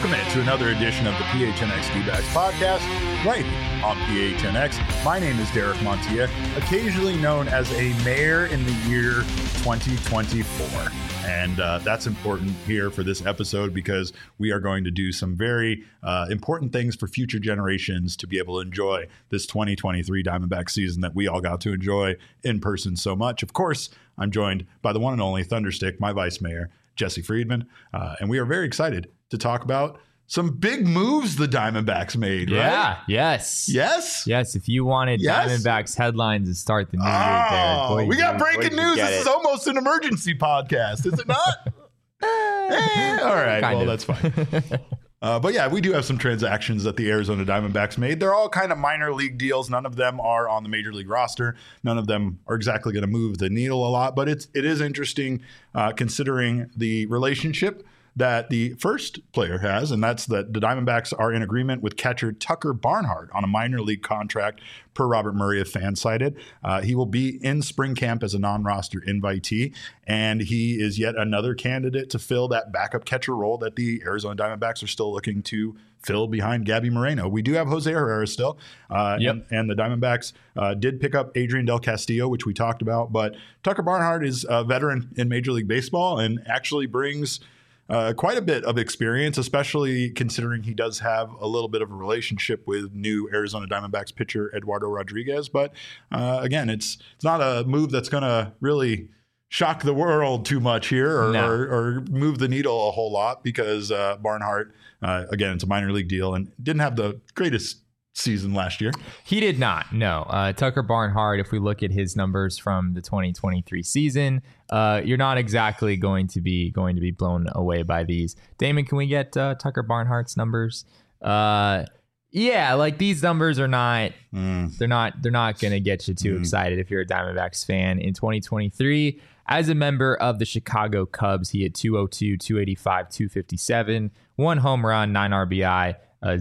Welcome to another edition of the PHNX D-Backs podcast, right here on PHNX. My name is Derek Montilla, occasionally known as a mayor in the year 2024. And that's important here for this episode because we are going to do some very important things for future generations to be able to enjoy this 2023 Diamondback season that we all got to enjoy in person so much. Of course, I'm joined by the one and only Thunderstick, my vice mayor, Jesse Friedman. And we are very excited to talk about some big moves the Diamondbacks made, right? Yeah, yes. Yes? Yes, if you wanted Diamondbacks headlines to start the new year, Derek, we got breaking news. This is almost an emergency podcast, is it not? All right, well, that's fine. But yeah, we do have some transactions that the Arizona Diamondbacks made. They're all kind of minor league deals. None of them are on the major league roster. None of them are exactly going to move the needle a lot, but it is interesting considering the relationship that the first player has, and that's that the Diamondbacks are in agreement with catcher Tucker Barnhart on a minor league contract per Robert Murray of Fansided. He will be in spring camp as a non-roster invitee, and he is yet another candidate to fill that backup catcher role that the Arizona Diamondbacks are still looking to fill behind Gabby Moreno. We do have Jose Herrera still, and the Diamondbacks did pick up Adrian Del Castillo, which we talked about, but Tucker Barnhart is a veteran in Major League Baseball and actually brings quite a bit of experience, especially considering he does have a little bit of a relationship with new Arizona Diamondbacks pitcher Eduardo Rodriguez. But again, it's not a move that's going to really shock the world too much here or move the needle a whole lot because Barnhart, again, it's a minor league deal and didn't have the greatest season last year. He did not, no. Tucker Barnhart, if we look at his numbers from the 2023 season, you're not exactly going to be blown away by these. Damon, can we get Tucker Barnhart's numbers? Yeah, like these numbers are not they're not going to get you too excited if you're a Diamondbacks fan. In 2023, as a member of the Chicago Cubs, he had 202, 285, 257, 1 home run, 9 RBI,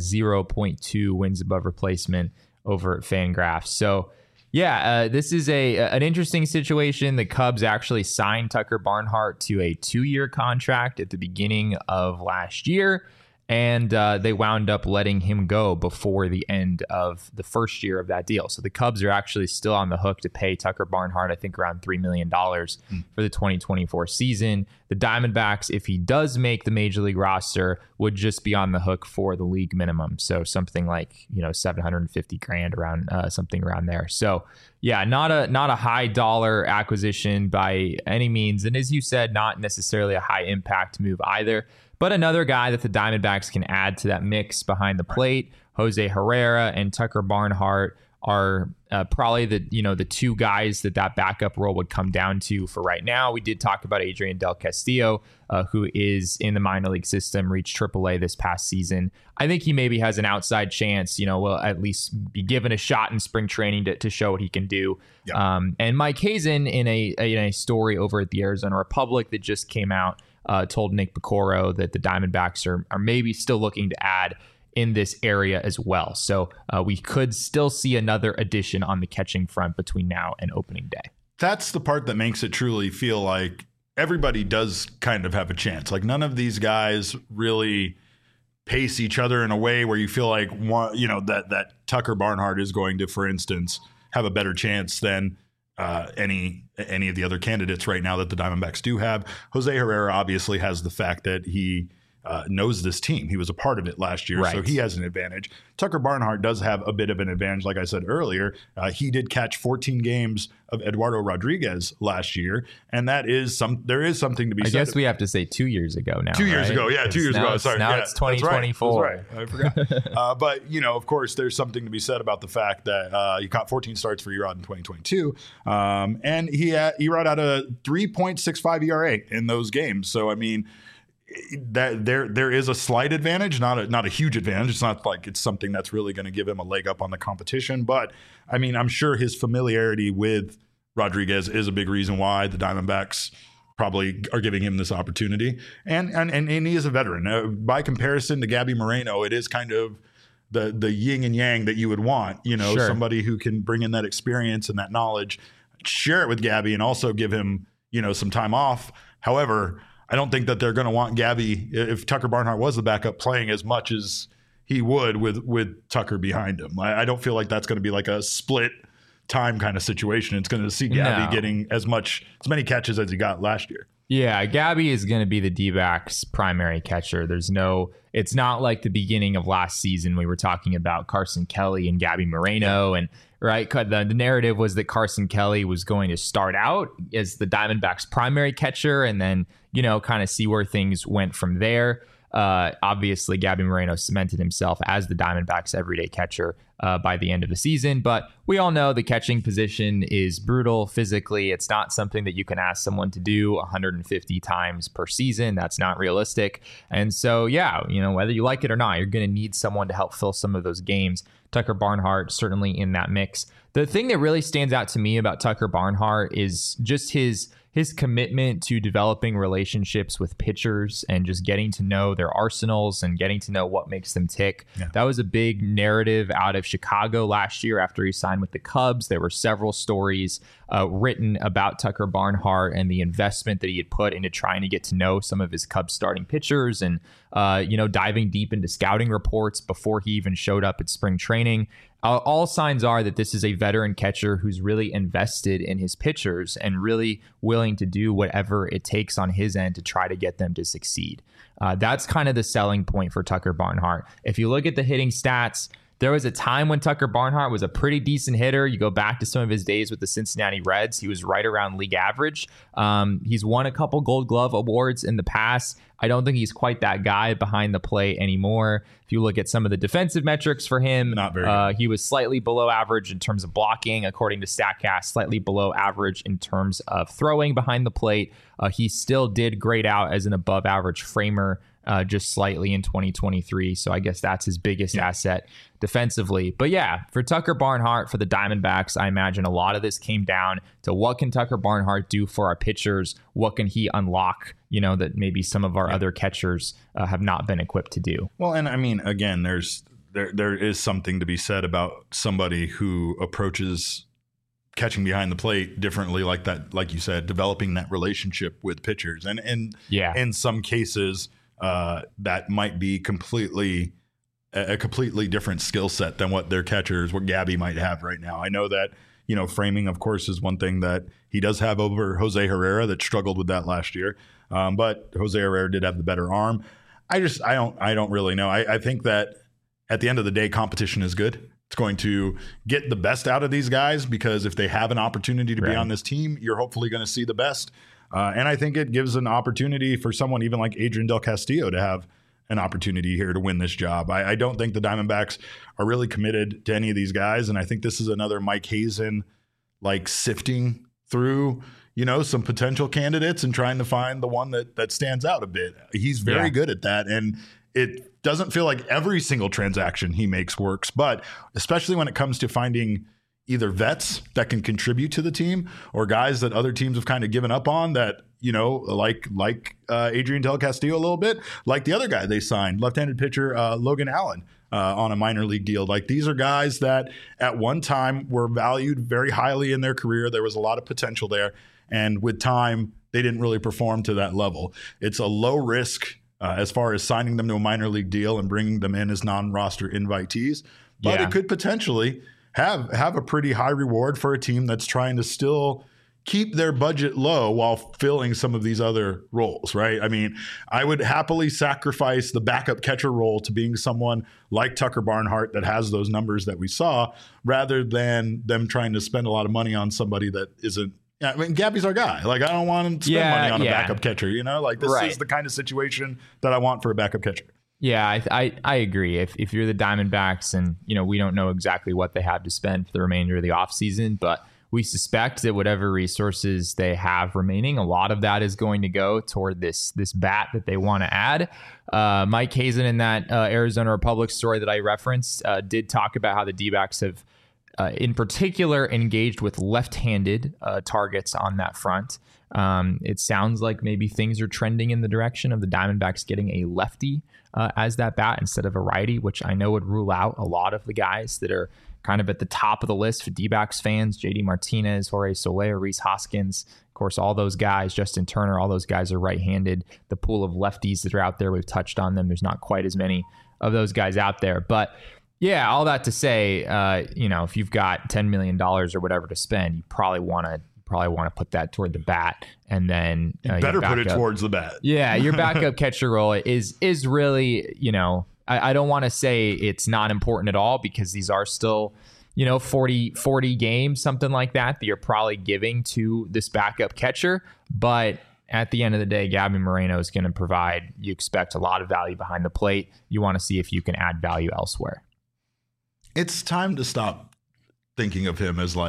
0.2 wins above replacement over at Fangraphs. So, yeah, this is an interesting situation. The Cubs actually signed Tucker Barnhart to a 2-year contract at the beginning of last year, and they wound up letting him go before the end of the first year of that deal. So the Cubs are actually still on the hook to pay Tucker Barnhart, I think, around $3 million for the 2024 season. The Diamondbacks, if he does make the major league roster, would just be on the hook for the league minimum. So something like, $750,000 around something around there. So yeah, not a high dollar acquisition by any means. And as you said, not necessarily a high impact move either. But another guy that the Diamondbacks can add to that mix behind the plate, Jose Herrera and Tucker Barnhart, are probably the two guys that backup role would come down to for right now. We did talk about Adrian Del Castillo, who is in the minor league system, reached AAA this past season. I think he maybe has an outside chance, will at least be given a shot in spring training to show what he can do. Yep. And Mike Hazen, in a story over at the Arizona Republic that just came out, told Nick Picoro that the Diamondbacks are maybe still looking to add in this area as well. So we could still see another addition on the catching front between now and opening day. That's the part that makes it truly feel like everybody does kind of have a chance. Like none of these guys really pace each other in a way where you feel like that Tucker Barnhart is going to, for instance, have a better chance than any of the other candidates right now that the Diamondbacks do have. Jose Herrera obviously has the fact that he knows this team. He was a part of it last year, right. So he has an advantage. Tucker Barnhart does have a bit of an advantage. Like I said earlier, he did catch 14 games of Eduardo Rodriguez last year, and there is something to be said. I guess we have to say 2 years ago now. 2 years ago, yeah, 2 years ago. Sorry, now it's 2024. That's right. I forgot. But of course, there's something to be said about the fact that he caught 14 starts for Erod in 2022, and Erod had a 3.65 ERA in those games. So I mean, that there is a slight advantage, not a huge advantage. It's not like it's something that's really going to give him a leg up on the competition. But I mean, I'm sure his familiarity with Rodriguez is a big reason why the Diamondbacks probably are giving him this opportunity. And he is a veteran. By comparison to Gabby Moreno, it is kind of the yin and yang that you would want. Sure. Somebody who can bring in that experience and that knowledge, share it with Gabby, and also give him some time off. However, I don't think that they're going to want Gabby, if Tucker Barnhart was the backup, playing as much as he would with Tucker behind him. I don't feel like that's going to be like a split time kind of situation. It's going to see Gabby getting as many catches as he got last year. Yeah, Gabby is going to be the D-backs' primary catcher. It's not like the beginning of last season we were talking about Carson Kelly and Gabby Moreno. And right, the narrative was that Carson Kelly was going to start out as the Diamondbacks' primary catcher and then, kind of see where things went from there. Obviously, Gabby Moreno cemented himself as the Diamondbacks' everyday catcher by the end of the season. But we all know the catching position is brutal physically. It's not something that you can ask someone to do 150 times per season. That's not realistic. And so, whether you like it or not, you're going to need someone to help fill some of those games. Tucker Barnhart certainly in that mix. The thing that really stands out to me about Tucker Barnhart is just his commitment to developing relationships with pitchers and just getting to know their arsenals and getting to know what makes them tick. Yeah. That was a big narrative out of Chicago last year after he signed with the Cubs. There were several stories written about Tucker Barnhart and the investment that he had put into trying to get to know some of his Cubs starting pitchers and, diving deep into scouting reports before he even showed up at spring training. All signs are that this is a veteran catcher who's really invested in his pitchers and really willing to do whatever it takes on his end to try to get them to succeed. That's kind of the selling point for Tucker Barnhart. If you look at the hitting stats, there was a time when Tucker Barnhart was a pretty decent hitter. You go back to some of his days with the Cincinnati Reds. He was right around league average. He's won a couple Gold Glove awards in the past. I don't think he's quite that guy behind the plate anymore. If you look at some of the defensive metrics for him, not very good. He was slightly below average in terms of blocking, according to StatCast, slightly below average in terms of throwing behind the plate. He still did grade out as an above average framer, just slightly in 2023. So I guess that's his biggest asset defensively. But for Tucker Barnhart, for the Diamondbacks, I imagine a lot of this came down to what can Tucker Barnhart do for our pitchers? What can he unlock, that maybe some of our other catchers have not been equipped to do? Well, and I mean, again, there is something to be said about somebody who approaches catching behind the plate differently, like that, like you said, developing that relationship with pitchers. And in some cases, that might be a completely different skill set than what Gabby might have right now. I know that, framing, of course, is one thing that he does have over Jose Herrera that struggled with that last year. But Jose Herrera did have the better arm. I don't really know. I think that at the end of the day, competition is good. It's going to get the best out of these guys because if they have an opportunity to be on this team, you're hopefully going to see the best. And I think it gives an opportunity for someone even like Adrian Del Castillo to have an opportunity here to win this job. I don't think the Diamondbacks are really committed to any of these guys. And I think this is another Mike Hazen, like sifting through, some potential candidates and trying to find the one that stands out a bit. He's very good at that. And it doesn't feel like every single transaction he makes works, but especially when it comes to finding either vets that can contribute to the team or guys that other teams have kind of given up on that, like Adrian Del Castillo a little bit, like the other guy they signed, left-handed pitcher Logan Allen on a minor league deal. Like these are guys that at one time were valued very highly in their career. There was a lot of potential there. And with time, they didn't really perform to that level. It's a low risk as far as signing them to a minor league deal and bringing them in as non-roster invitees. But it could potentially have a pretty high reward for a team that's trying to still keep their budget low while filling some of these other roles, right? I mean, I would happily sacrifice the backup catcher role to being someone like Tucker Barnhart that has those numbers that we saw rather than them trying to spend a lot of money on somebody that isn't. I mean, Gabby's our guy. Like, I don't want him to spend money on a backup catcher, Like, this is the kind of situation that I want for a backup catcher. Yeah, I agree. If you're the Diamondbacks and, we don't know exactly what they have to spend for the remainder of the offseason, but we suspect that whatever resources they have remaining, a lot of that is going to go toward this bat that they want to add. Mike Hazen in that Arizona Republic story that I referenced did talk about how the D-backs have in particular engaged with left-handed targets on that front. It sounds like maybe things are trending in the direction of the Diamondbacks getting a lefty as that bat instead of a righty, which I know would rule out a lot of the guys that are kind of at the top of the list for D-backs fans. JD Martinez, Jorge Soler, Rhys Hoskins, of course, all those guys, Justin Turner, all those guys are right-handed. The pool of lefties that are out there, we've touched on them. There's not quite as many of those guys out there. But yeah, all that to say, if you've got $10 million or whatever to spend, you probably want to put that toward the bat, and then you better put it towards the bat. Yeah, your backup catcher role is really, I don't want to say it's not important at all, because these are still, 40 games, something like that you're probably giving to this backup catcher. But at the end of the day, Gabby Moreno is going to provide, you expect a lot of value behind the plate. You want to see if you can add value elsewhere. It's time to stop thinking of him as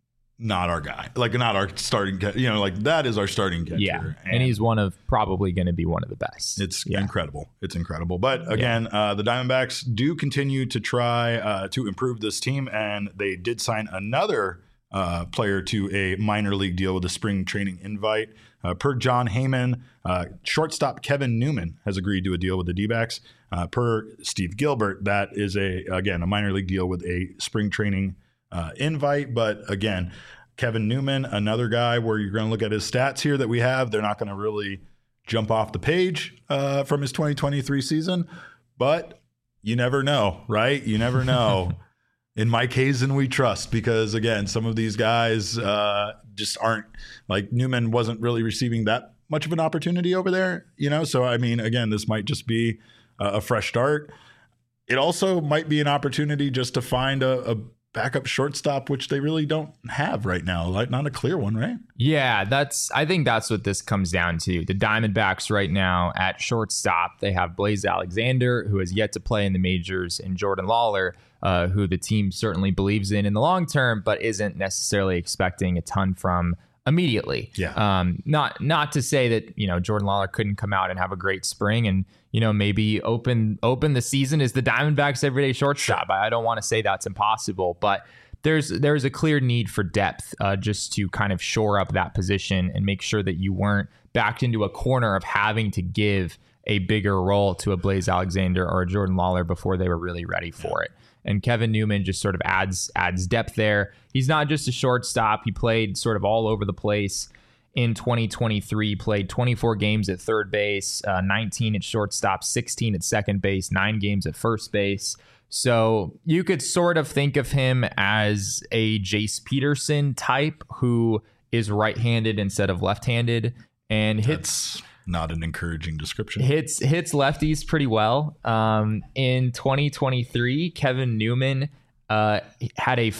not our guy, not our starting catcher. That is our starting catcher. Yeah, and he's probably going to be one of the best. It's incredible. It's incredible. But again, the Diamondbacks do continue to try to improve this team, and they did sign another player to a minor league deal with a spring training invite. Per Jon Heyman, shortstop Kevin Newman has agreed to a deal with the D-backs. Per Steve Gilbert, that is a minor league deal with a spring training invite. But again, Kevin Newman, another guy where you're going to look at his stats here that we have. They're not going to really jump off the page from his 2023 season, but you never know, right? You never know. In Mike Hazen, we trust, because again, some of these guys just aren't, Newman wasn't really receiving that much of an opportunity over there, So, I mean, again, this might just be a fresh start. It also might be an opportunity just to find a backup shortstop, which they really don't have right now. Not a clear one, right? Yeah, I think that's what this comes down to. The Diamondbacks right now at shortstop, they have Blaze Alexander, who has yet to play in the majors, and Jordan Lawler, who the team certainly believes in the long term, but isn't necessarily expecting a ton from immediately. Yeah. Not to say that, Jordan Lawler couldn't come out and have a great spring and, maybe open the season as the Diamondbacks everyday shortstop. I don't want to say that's impossible, but there's a clear need for depth just to kind of shore up that position and make sure that you weren't backed into a corner of having to give a bigger role to a Blaze Alexander or a Jordan Lawler before they were really ready for it. And Kevin Newman just sort of adds depth there. He's not just a shortstop. He played sort of all over the place in 2023, played 24 games at third base, 19 at shortstop, 16 at second base, 9 games at first base. So you could sort of think of him as a Jace Peterson type who is right-handed instead of left-handed and hits... Not an encouraging description. Hits lefties pretty well. In 2023, Kevin Newman had a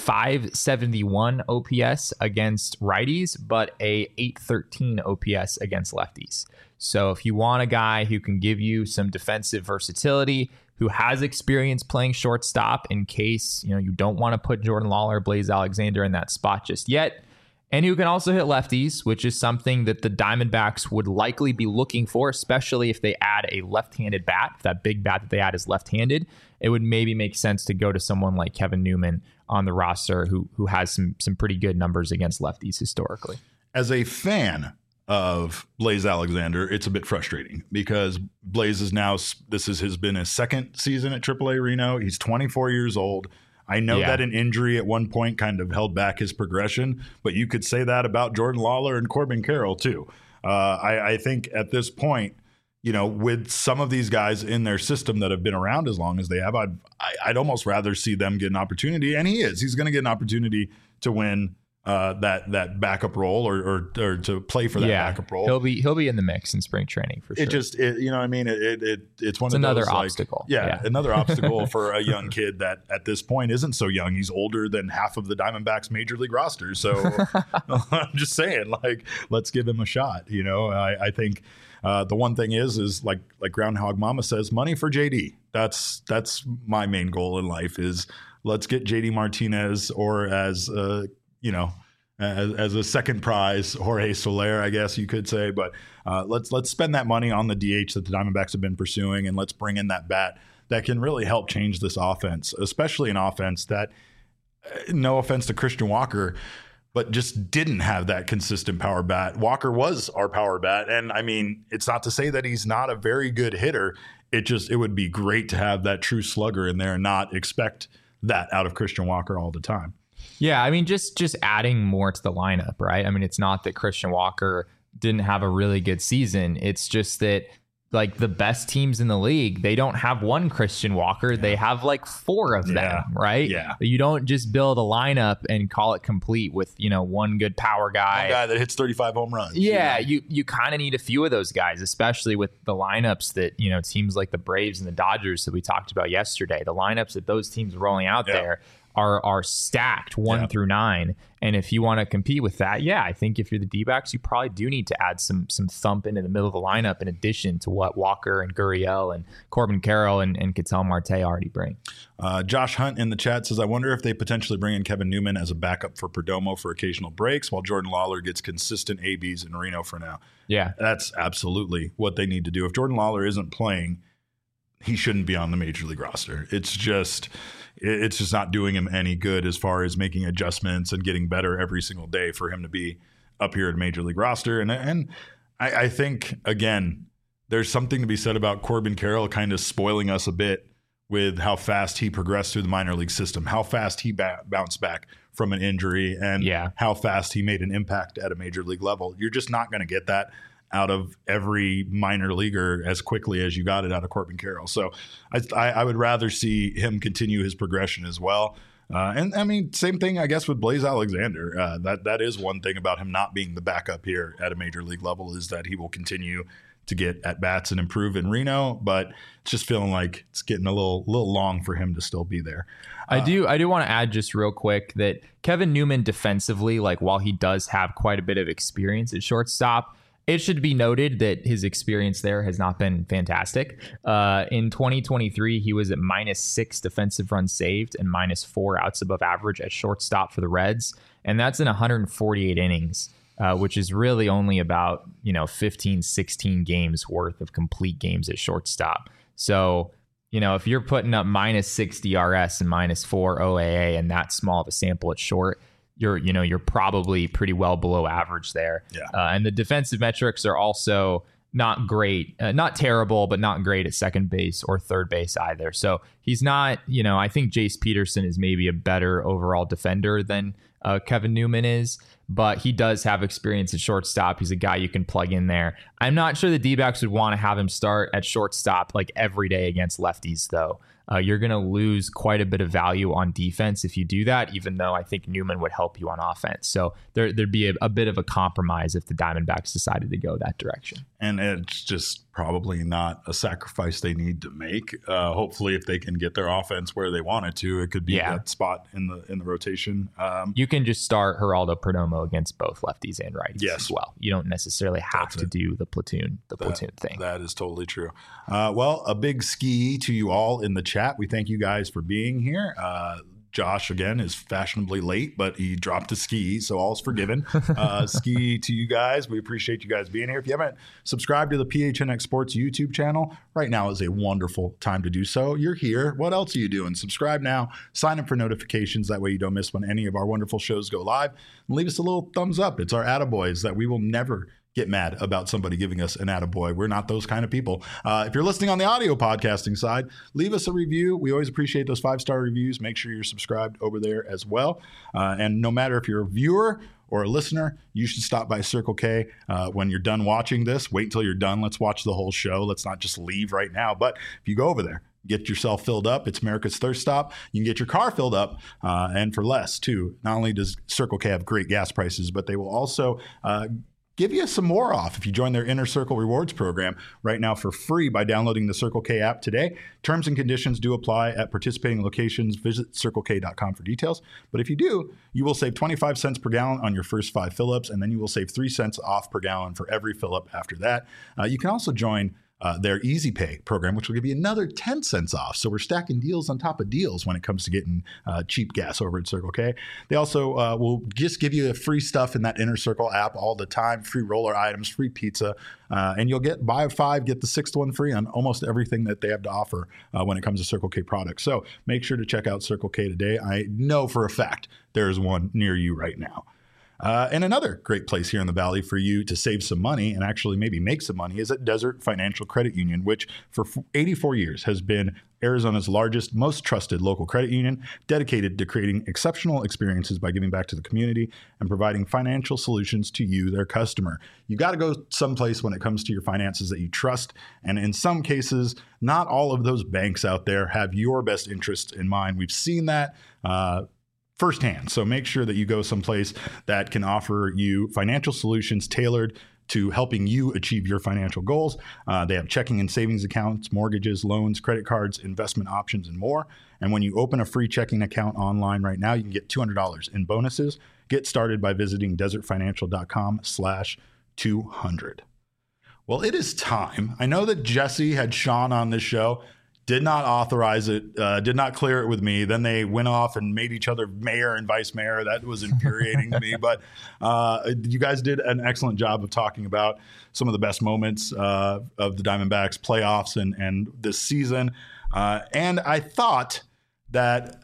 571 OPS against righties, but a 813 OPS against lefties. So if you want a guy who can give you some defensive versatility, who has experience playing shortstop in case you don't want to put Jordan Lawler, Blaze Alexander in that spot just yet, and who can also hit lefties, which is something that the Diamondbacks would likely be looking for, especially if they add a left-handed bat. If that big bat that they add is left-handed, it would maybe make sense to go to someone like Kevin Newman on the roster who has some pretty good numbers against lefties historically. As a fan of Blaze Alexander, it's a bit frustrating because Blaze has been his second season at AAA Reno. He's 24 years old. I know that an injury at one point kind of held back his progression, but you could say that about Jordan Lawler and Corbin Carroll too. I think at this point, with some of these guys in their system that have been around as long as they have, I'd almost rather see them get an opportunity. And he's going to get an opopportunity to win that backup role or to play for that backup role. He'll be in the mix in spring training for sure. It's another obstacle. Another obstacle for a young kid that at this point isn't so young. He's older than half of the Diamondbacks major league roster. So I'm just saying, let's give him a shot. I think the one thing is like Groundhog Mama says, money for JD. That's my main goal in life is let's get JD Martinez or as a second prize, Jorge Soler, I guess you could say. But let's spend that money on the DH that the Diamondbacks have been pursuing, and let's bring in that bat that can really help change this offense, especially an offense that, no offense to Christian Walker, but just didn't have that consistent power bat. Walker was our power bat. And I mean, it's not to say that he's not a very good hitter. It would be great to have that true slugger in there and not expect that out of Christian Walker all the time. Yeah, I mean, just adding more to the lineup, right? I mean, it's not that Christian Walker didn't have a really good season. It's just that like the best teams in the league, they don't have one Christian Walker. They have like 4 of them, right? Yeah. You don't just build a lineup and call it complete with, one good power guy. One guy that hits 35 home runs. Yeah, you kind of need a few of those guys, especially with the lineups that, teams like the Braves and the Dodgers that we talked about yesterday. The lineups that those teams are rolling out there are stacked 1 through 9. And if you want to compete with that, I think if you're the D-backs, you probably do need to add some thump into the middle of the lineup in addition to what Walker and Gurriel and Corbin Carroll and Ketel Marte already bring. Josh Hunt in the chat says, I wonder if they potentially bring in Kevin Newman as a backup for Perdomo for occasional breaks while Jordan Lawler gets consistent ABs in Reno for now. Yeah. That's absolutely what they need to do. If Jordan Lawler isn't playing, he shouldn't be on the major league roster. It's just not doing him any good as far as making adjustments and getting better every single day for him to be up here at major league roster. And I think, again, there's something to be said about Corbin Carroll kind of spoiling us a bit with how fast he progressed through the minor league system, how fast he bounced back from an injury, and how fast he made an impact at a major league level. You're just not going to get that out of every minor leaguer as quickly as you got it out of Corbin Carroll. So I would rather see him continue his progression as well. And I mean, same thing, I guess, with Blaze Alexander. That is one thing about him not being the backup here at a major league level, is that he will continue to get at bats and improve in Reno, but it's just feeling like it's getting a little long for him to still be there. I do want to add just real quick that Kevin Newman defensively, like while he does have quite a bit of experience at shortstop, it should be noted that his experience there has not been fantastic. In 2023, he was at -6 defensive runs saved and -4 outs above average at shortstop for the Reds. And that's in 148 innings, which is really only about 15, 16 games worth of complete games at shortstop. So, if you're putting up -6 DRS and -4 OAA and that small of a sample at short, you're probably pretty well below average there. Yeah. And the defensive metrics are also not great, not terrible, but not great at second base or third base either. So he's not, I think Jace Peterson is maybe a better overall defender than Kevin Newman is, but he does have experience at shortstop. He's a guy you can plug in there. I'm not sure the D-backs would want to have him start at shortstop like every day against lefties, though. You're going to lose quite a bit of value on defense if you do that, even though I think Newman would help you on offense. So there'd be a bit of a compromise if the Diamondbacks decided to go that direction. And it's just probably not a sacrifice they need to make. Hopefully, if they can get their offense where they want it to, it could be that spot in the rotation. You can just start Geraldo Perdomo against both lefties and righties as well. You don't necessarily have to do the platoon thing. That is totally true. Well, a big ski to you all in the chat. We thank you guys for being here. Josh, again, is fashionably late, but he dropped a ski, so all's forgiven. Ski to you guys. We appreciate you guys being here. If you haven't subscribed to the PHNX Sports YouTube channel, right now is a wonderful time to do so. You're here. What else are you doing? Subscribe now. Sign up for notifications. That way you don't miss when any of our wonderful shows go live. And leave us a little thumbs up. It's our attaboys that we will never get mad about somebody giving us an attaboy. We're not those kind of people. If you're listening on the audio podcasting side, leave us a review. We always appreciate those 5-star reviews. Make sure you're subscribed over there as well. And no matter if you're a viewer or a listener, you should stop by Circle K when you're done watching this. Wait until you're done. Let's watch the whole show. Let's not just leave right now. But if you go over there, get yourself filled up. It's America's Thirst Stop. You can get your car filled up and for less, too. Not only does Circle K have great gas prices, but they will also give you some more off if you join their Inner Circle Rewards program right now for free by downloading the Circle K app today. Terms and conditions do apply at participating locations. Visit CircleK.com for details. But if you do, you will save 25 cents per gallon on your first 5 fill-ups, and then you will save 3 cents off per gallon for every fill-up after that. You can also join their Easy Pay program, which will give you another 10 cents off. So we're stacking deals on top of deals when it comes to getting cheap gas over at Circle K. They also will just give you free stuff in that Inner Circle app all the time, free roller items, free pizza, and you'll get buy 5, get the 6th one free on almost everything that they have to offer when it comes to Circle K products. So make sure to check out Circle K today. I know for a fact there is one near you right now. And another great place here in the Valley for you to save some money and actually maybe make some money is at Desert Financial Credit Union, which for 84 years has been Arizona's largest, most trusted local credit union, dedicated to creating exceptional experiences by giving back to the community and providing financial solutions to you, their customer. You got to go someplace when it comes to your finances that you trust. And in some cases, not all of those banks out there have your best interests in mind. We've seen that firsthand. So make sure that you go someplace that can offer you financial solutions tailored to helping you achieve your financial goals. They have checking and savings accounts, mortgages, loans, credit cards, investment options, and more. And when you open a free checking account online right now, you can get $200 in bonuses. Get started by visiting desertfinancial.com/200. Well, it is time. I know that Jesse had Sean on this show, did not authorize it, did not clear it with me. Then they went off and made each other mayor and vice mayor. That was infuriating to me. But you guys did an excellent job of talking about some of the best moments of the Diamondbacks playoffs and this season. And I thought that...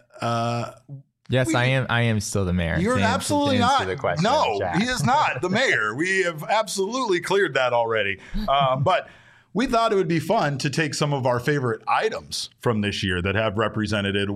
Yes, I am still the mayor. You're absolutely not. No, he is not the mayor. We have absolutely cleared that already. But we thought it would be fun to take some of our favorite items from this year that have represented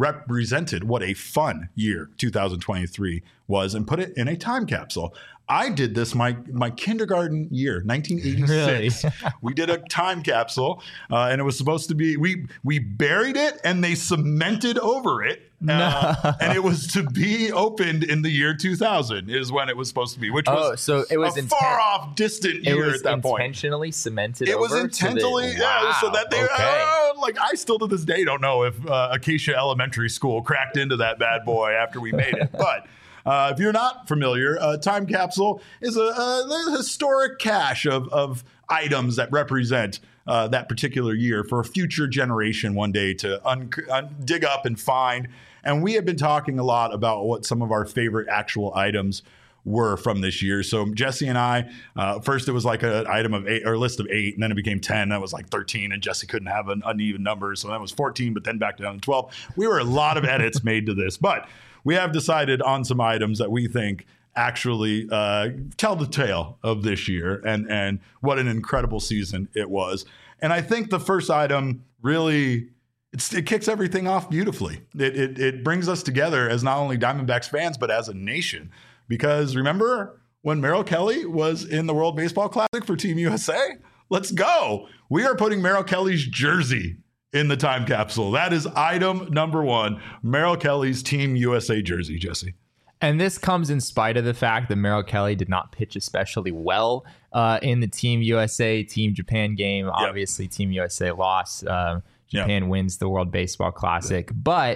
what a fun year 2023 was and put it in a time capsule. I did this my kindergarten year, 1986. Really? We did a time capsule, and it was supposed to be we buried it and they cemented over it. And it was to be opened in the year 2000 is when it was supposed to be, which was so it was a far off distant year at that point. It was intentionally cemented over? It was intentionally, so that they, I still to this day don't know if Acacia Elementary School cracked into that bad boy after we made it. But if you're not familiar, a time capsule is a historic cache of items that represent that particular year for a future generation one day to dig up and find. And we have been talking a lot about what some of our favorite actual items were from this year. So Jesse and I, first it was like an item of 8 or a list of 8, and then it became 10. That was like 13, and Jesse couldn't have an uneven number. So that was 14, but then back down to 12. We were a lot of edits made to this, but we have decided on some items that we think actually tell the tale of this year and what an incredible season it was. And I think the first item really... It kicks everything off beautifully. It brings us together as not only Diamondbacks fans, but as a nation. Because remember when Merrill Kelly was in the World Baseball Classic for Team USA? Let's go. We are putting Merrill Kelly's jersey in the time capsule. That is item number 1, Merrill Kelly's Team USA jersey, Jesse. And this comes in spite of the fact that Merrill Kelly did not pitch especially well in the Team USA, Team Japan game. Yep. Obviously, Team USA lost. Japan wins the World Baseball Classic. But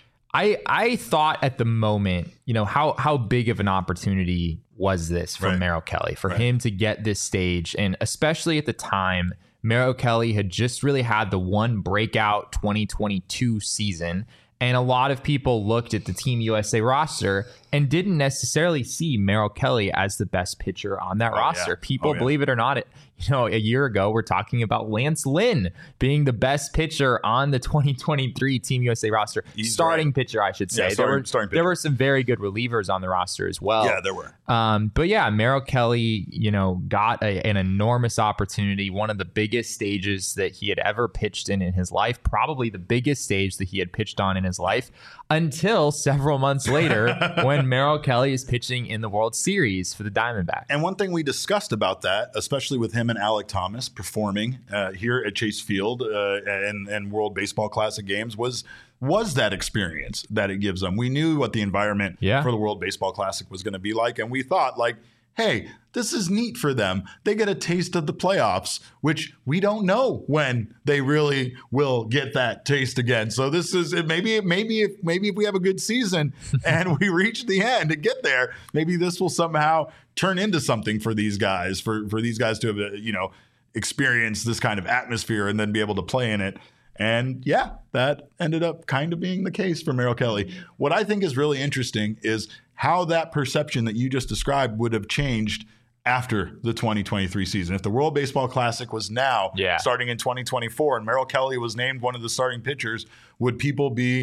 I thought at the moment, how big of an opportunity was this for Merrill Kelly, for him to get this stage? And especially at the time, Merrill Kelly had just really had the one breakout 2022 season. And a lot of people looked at the Team USA roster and didn't necessarily see Merrill Kelly as the best pitcher on that roster. Yeah. People, believe it or not, a year ago, we're talking about Lance Lynn being the best pitcher on the 2023 Team USA roster. Starting pitcher, I should say. Yeah, there were some very good relievers on the roster as well. Yeah, there were. But yeah, Merrill Kelly, got an enormous opportunity, one of the biggest stages that he had ever pitched in his life, probably the biggest stage that he had pitched on in his life, until several months later when Merrill Kelly is pitching in the World Series for the Diamondbacks. And one thing we discussed about that, especially with him and Alek Thomas performing here at Chase Field and World Baseball Classic games, was that experience that it gives them. We knew what the environment for the World Baseball Classic was going to be like, and we thought, hey, this is neat for them. They get a taste of the playoffs, which we don't know when they really will get that taste again. So this is maybe if we have a good season and we reach the end and get there, maybe this will somehow turn into something for these guys, for these guys to have experience this kind of atmosphere and then be able to play in it. And yeah, that ended up kind of being the case for Merrill Kelly. What I think is really interesting is how that perception that you just described would have changed after the 2023 season. If the World Baseball Classic was now starting in 2024 and Merrill Kelly was named one of the starting pitchers, would people be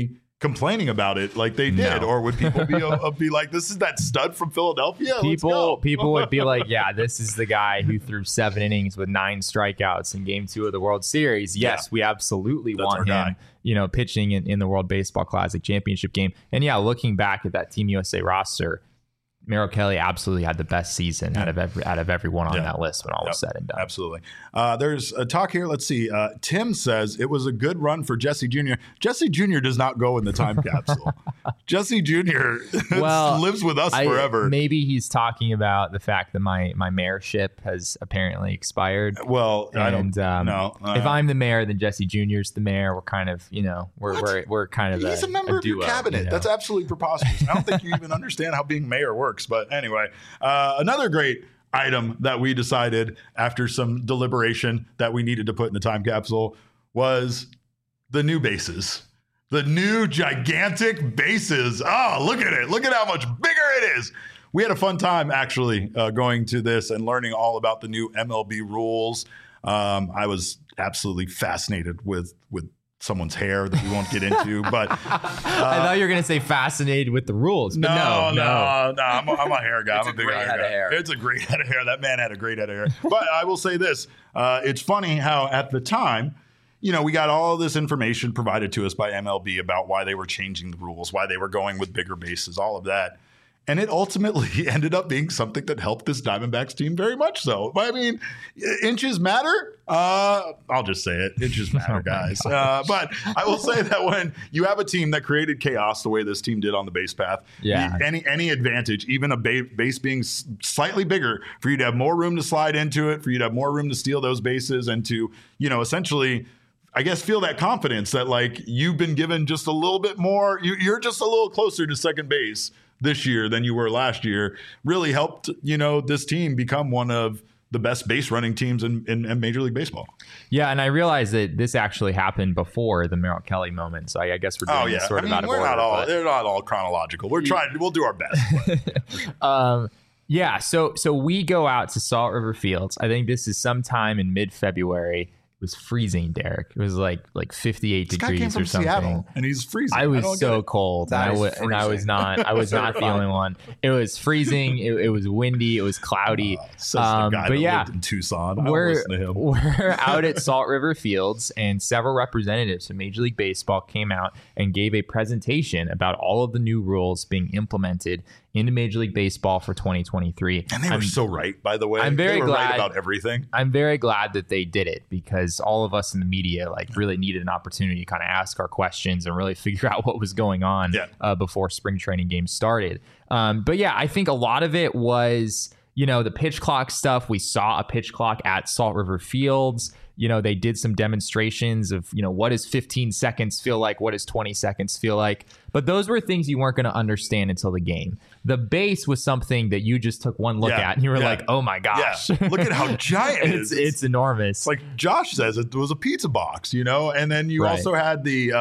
complaining about it like they did? Or would people be like, this is that stud from Philadelphia? People would be like, yeah, this is the guy who threw 7 innings with 9 strikeouts in Game 2 of the World Series. Yes, we absolutely want him, pitching in the World Baseball Classic championship game. And yeah, looking back at that Team USA roster, Merrill Kelly absolutely had the best season out of everyone on that list when all was said and done. Absolutely. There's a talk here. Let's see. Tim says it was a good run for Jesse Jr. Jesse Jr. does not go in the time capsule. Jesse Jr. lives with us forever. Maybe he's talking about the fact that my mayorship has apparently expired. Well, I don't know. If I'm the mayor, then Jesse Jr.'s the mayor. We're kind of, we're kind of he's a member of your cabinet. That's absolutely preposterous. I don't think you even understand how being mayor works. But anyway, another great item that we decided after some deliberation that we needed to put in the time capsule was the new bases. The new gigantic bases. Oh, look at it. Look at how much bigger it is. We had a fun time actually going to this and learning all about the new MLB rules. I was absolutely fascinated with someone's hair that we won't get into, but I thought you were going to say fascinated with the rules. But no. I'm a hair guy. I'm a big head of hair. It's a great head of hair. That man had a great head of hair. But I will say this: it's funny how at the time, we got all this information provided to us by MLB about why they were changing the rules, why they were going with bigger bases, all of that. And it ultimately ended up being something that helped this Diamondbacks team very much so. I mean, inches matter. I'll just say it. Inches matter, guys. But I will say that when you have a team that created chaos the way this team did on the base path, any advantage, even a base being slightly bigger, for you to have more room to slide into it, for you to have more room to steal those bases and to, essentially, I guess, feel that confidence that, like, you've been given just a little bit more. You're just a little closer to second base this year than you were last year, really helped, this team become one of the best base running teams in Major League Baseball. Yeah, and I realized that this actually happened before the Merrill Kelly moment. So I guess we're doing this sort of out of order. They're not all chronological. We'll do our best. So we go out to Salt River Fields. I think this is sometime in mid-February. It was freezing, Derek. It was like 58 degrees or something. Seattle, and he's freezing. I was so cold, and I was not the only one. It was freezing. It was windy. It was cloudy. The guy that lived in Tucson. We're out at Salt River Fields, and several representatives from Major League Baseball came out and gave a presentation about all of the new rules being implemented into Major League Baseball for 2023. And they were so right, by the way. I'm very glad right about everything. I'm very glad that they did it, because all of us in the media really needed an opportunity to kind of ask our questions and really figure out what was going on before spring training games started. But yeah, I think a lot of it was, the pitch clock stuff. We saw a pitch clock at Salt River Fields. They did some demonstrations of, what does 15 seconds feel like? What does 20 seconds feel like? But those were things you weren't going to understand until the game. The base was something that you just took one look at and you were like, oh my gosh. Yeah. Look at how giant it is. It's enormous. It's like Josh says, it was a pizza box, and then you also had the,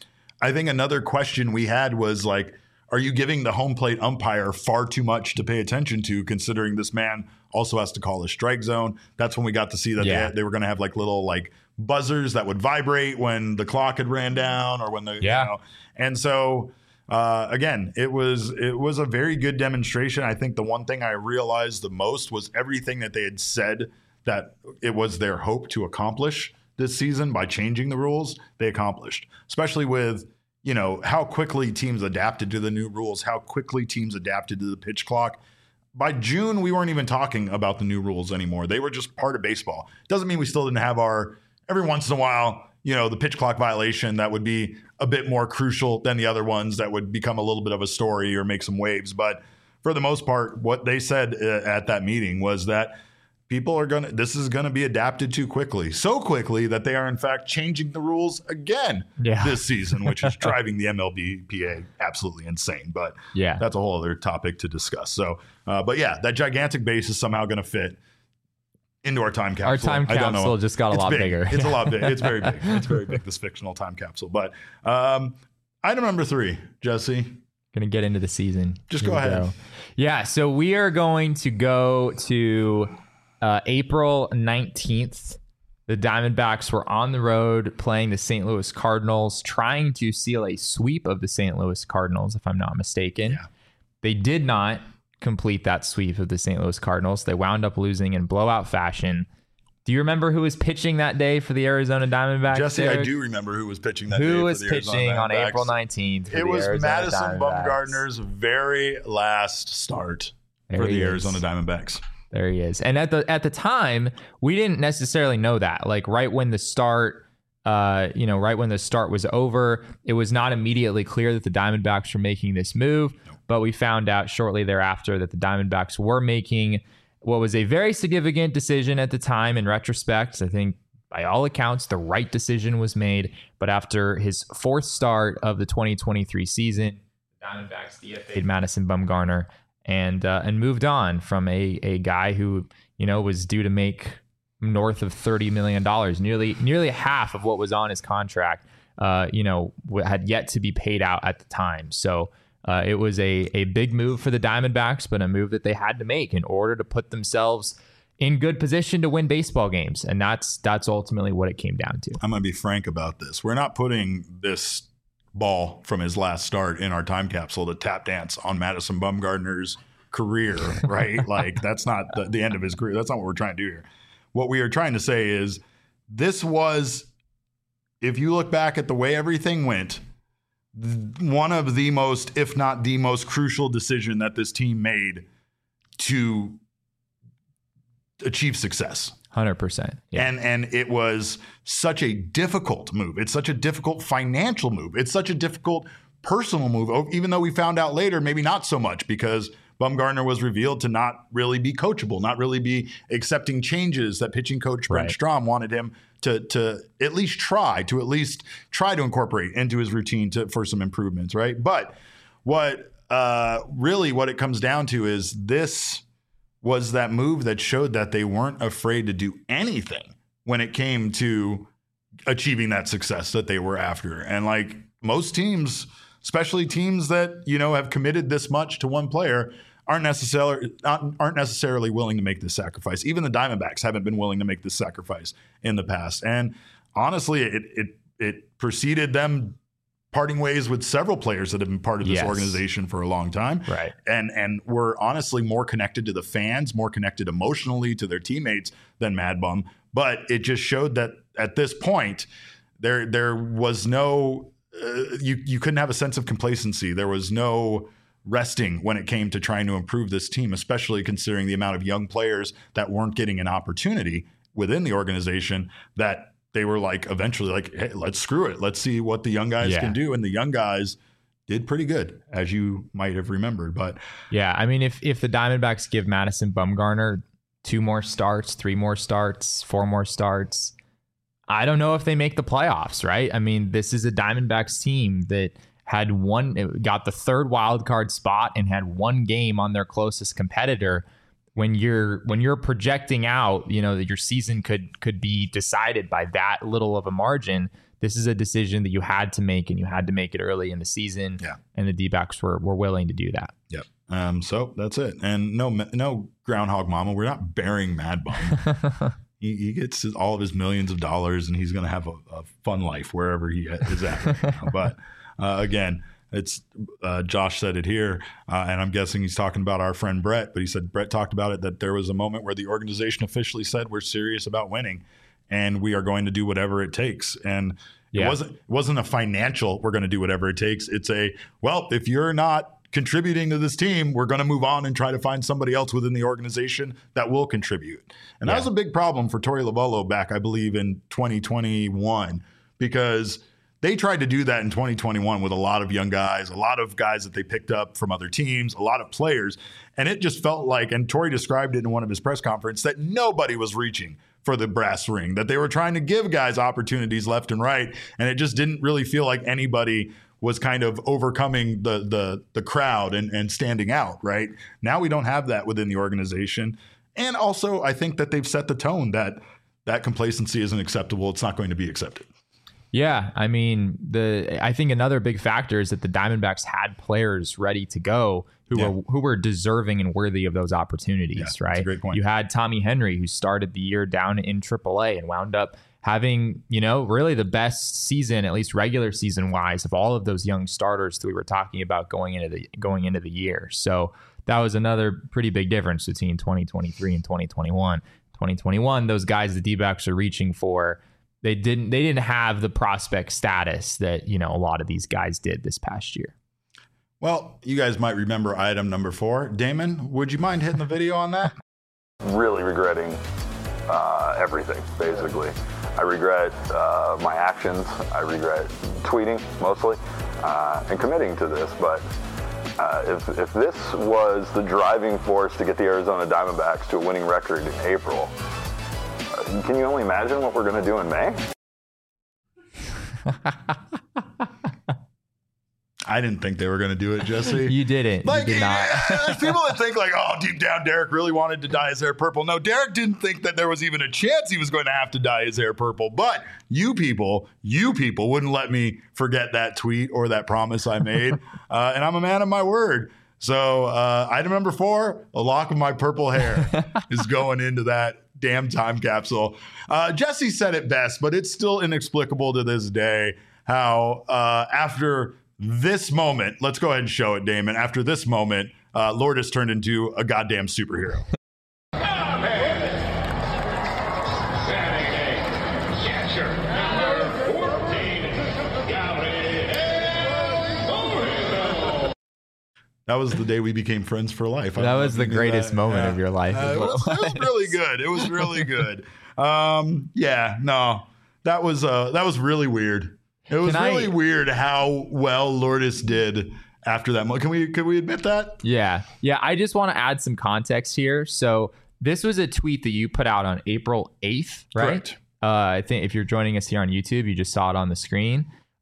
I think another question we had was like, are you giving the home plate umpire far too much to pay attention to, considering this man also has to call a strike zone? That's when we got to see that they were going to have little buzzers that would vibrate when the clock had ran down or when the and so again, it was a very good demonstration. I think the one thing I realized the most was everything that they had said that it was their hope to accomplish this season by changing the rules, they accomplished, especially with how quickly teams adapted to the new rules, how quickly teams adapted to the pitch clock. By June, we weren't even talking about the new rules anymore. They were just part of baseball. Doesn't mean we still didn't have every once in a while, the pitch clock violation that would be a bit more crucial than the other ones that would become a little bit of a story or make some waves. But for the most part, what they said at that meeting was that this is going to be adapted to quickly. So quickly that they are in fact changing the rules again this season, which is driving the MLBPA absolutely insane. But that's a whole other topic to discuss. So, but that gigantic base is somehow going to fit into our time capsule. Our time capsule just got a lot bigger. It's a lot big. It's very big. It's very big, this fictional time capsule. But item number 3, Jesse. Going to get into the season. Just go ahead. Yeah, so we are going to go to April 19th The Diamondbacks were on the road playing the St. Louis Cardinals, trying to seal a sweep of the St. Louis Cardinals, if I'm not mistaken. Yeah. They did not complete that sweep of the St. Louis Cardinals. They wound up losing in blowout fashion. Do you remember who was pitching that day for the Arizona Diamondbacks? Jesse, Derek? I do remember who was pitching that day. Who for was the Arizona pitching on Diamondbacks. April 19th? It was Arizona Madison Diamondbacks. Bumgarner's very last start for the Arizona Diamondbacks. There he is. And at the time, we didn't necessarily know that. Like right when the start, right when the start was over, it was not immediately clear that the Diamondbacks were making this move. But we found out shortly thereafter that the Diamondbacks were making what was a very significant decision at the time. In retrospect, I think by all accounts, the right decision was made. But after his fourth start of the 2023 season, the Diamondbacks DFA'd Madison Bumgarner and moved on from a guy who, was due to make north of $30 million, nearly half of what was on his contract, had yet to be paid out at the time. So it was a big move for the Diamondbacks, but a move that they had to make in order to put themselves in good position to win baseball games. And that's ultimately what it came down to. I'm going to be frank about this. We're not putting this ball from his last start in our time capsule to tap dance on Madison Bumgarner's career, right? Like that's not the end of his career. That's not what we're trying to do here. What we are trying to say is this was, if you look back at the way everything went, one of the most, if not the most crucial decision that this team made to achieve success. 100%. Yeah. And it was such a difficult move. It's such a difficult financial move. It's such a difficult personal move, even though we found out later, maybe not so much, because Bumgarner was revealed to not really be coachable, not really be accepting changes that pitching coach Brent Strom wanted him to at least try to incorporate into his routine for some improvements, right? But what it comes down to is this was that move that showed that they weren't afraid to do anything when it came to achieving that success that they were after. And like most teams, especially teams that, have committed this much to one player, aren't necessarily willing to make this sacrifice. Even the Diamondbacks haven't been willing to make this sacrifice in the past. And honestly, it preceded them parting ways with several players that have been part of this organization for a long time. Right. And were honestly more connected to the fans, more connected emotionally to their teammates than Mad Bum. But it just showed that at this point, there was no, you couldn't have a sense of complacency. There was no resting when it came to trying to improve this team, especially considering the amount of young players that weren't getting an opportunity within the organization, that they were like eventually like, hey, let's screw it. Let's see what the young guys can do. And the young guys did pretty good, as you might have remembered. But yeah, I mean, if the Diamondbacks give Madison Bumgarner 2 more starts, 3 more starts, 4 more starts, I don't know if they make the playoffs, right? I mean, this is a Diamondbacks team that got the 3rd wild card spot and had 1 game on their closest competitor. When you're projecting out, that your season could be decided by that little of a margin, this is a decision that you had to make, and you had to make it early in the season. Yeah. And the D-backs were willing to do that. Yep. So that's it. And no groundhog mama. We're not burying Mad Bum. He gets all of his millions of dollars, and he's going to have a fun life wherever he is at right now. But again, it's Josh said it here, and I'm guessing he's talking about our friend Brett, but he said Brett talked about it, that there was a moment where the organization officially said we're serious about winning and we are going to do whatever it takes. And it wasn't a financial, we're going to do whatever it takes. It's if you're not contributing to this team, we're going to move on and try to find somebody else within the organization that will contribute. And that was a big problem for Torey Lovullo back, I believe, in 2021, because they tried to do that in 2021 with a lot of young guys, a lot of guys that they picked up from other teams, a lot of players. And it just felt like, and Torey described it in one of his press conferences, that nobody was reaching for the brass ring, that they were trying to give guys opportunities left and right. And it just didn't really feel like anybody was kind of overcoming the crowd and standing out, right? Now we don't have that within the organization. And also, I think that they've set the tone that complacency isn't acceptable. It's not going to be accepted. Yeah, I mean, I think another big factor is that the Diamondbacks had players ready to go who were deserving and worthy of those opportunities, right? That's a great point. You had Tommy Henry, who started the year down in AAA and wound up having, really the best season, at least regular season wise, of all of those young starters that we were talking about going into the year. So that was another pretty big difference between 2023 and 2021. 2021, those guys the D-backs are reaching for, they didn't have the prospect status that, a lot of these guys did this past year. Well, you guys might remember item number 4. Damon, would you mind hitting the video on that? Really regretting everything, basically. I regret my actions. I regret tweeting mostly and committing to this. But if this was the driving force to get the Arizona Diamondbacks to a winning record in April, can you only imagine what we're going to do in May? I didn't think they were going to do it, Jesse. You didn't. Like, you did not. There's people that think like, oh, deep down, Derek really wanted to dye his hair purple. No, Derek didn't think that there was even a chance he was going to have to dye his hair purple. But you people wouldn't let me forget that tweet or that promise I made. And I'm a man of my word. So item number 4, a lock of my purple hair is going into that damn time capsule. Jesse said it best, but it's still inexplicable to this day how after this moment, let's go ahead and show it, Damon. After this moment, Lourdes turned into a goddamn superhero. That was the day we became friends for life. That was the greatest moment of your life. It was really good. It was really good. That was really weird. It was really weird how well Lourdes did after that. Can we admit that? Yeah. I just want to add some context here. So this was a tweet that you put out on April 8th, right? Correct. I think if you're joining us here on YouTube, you just saw it on the screen.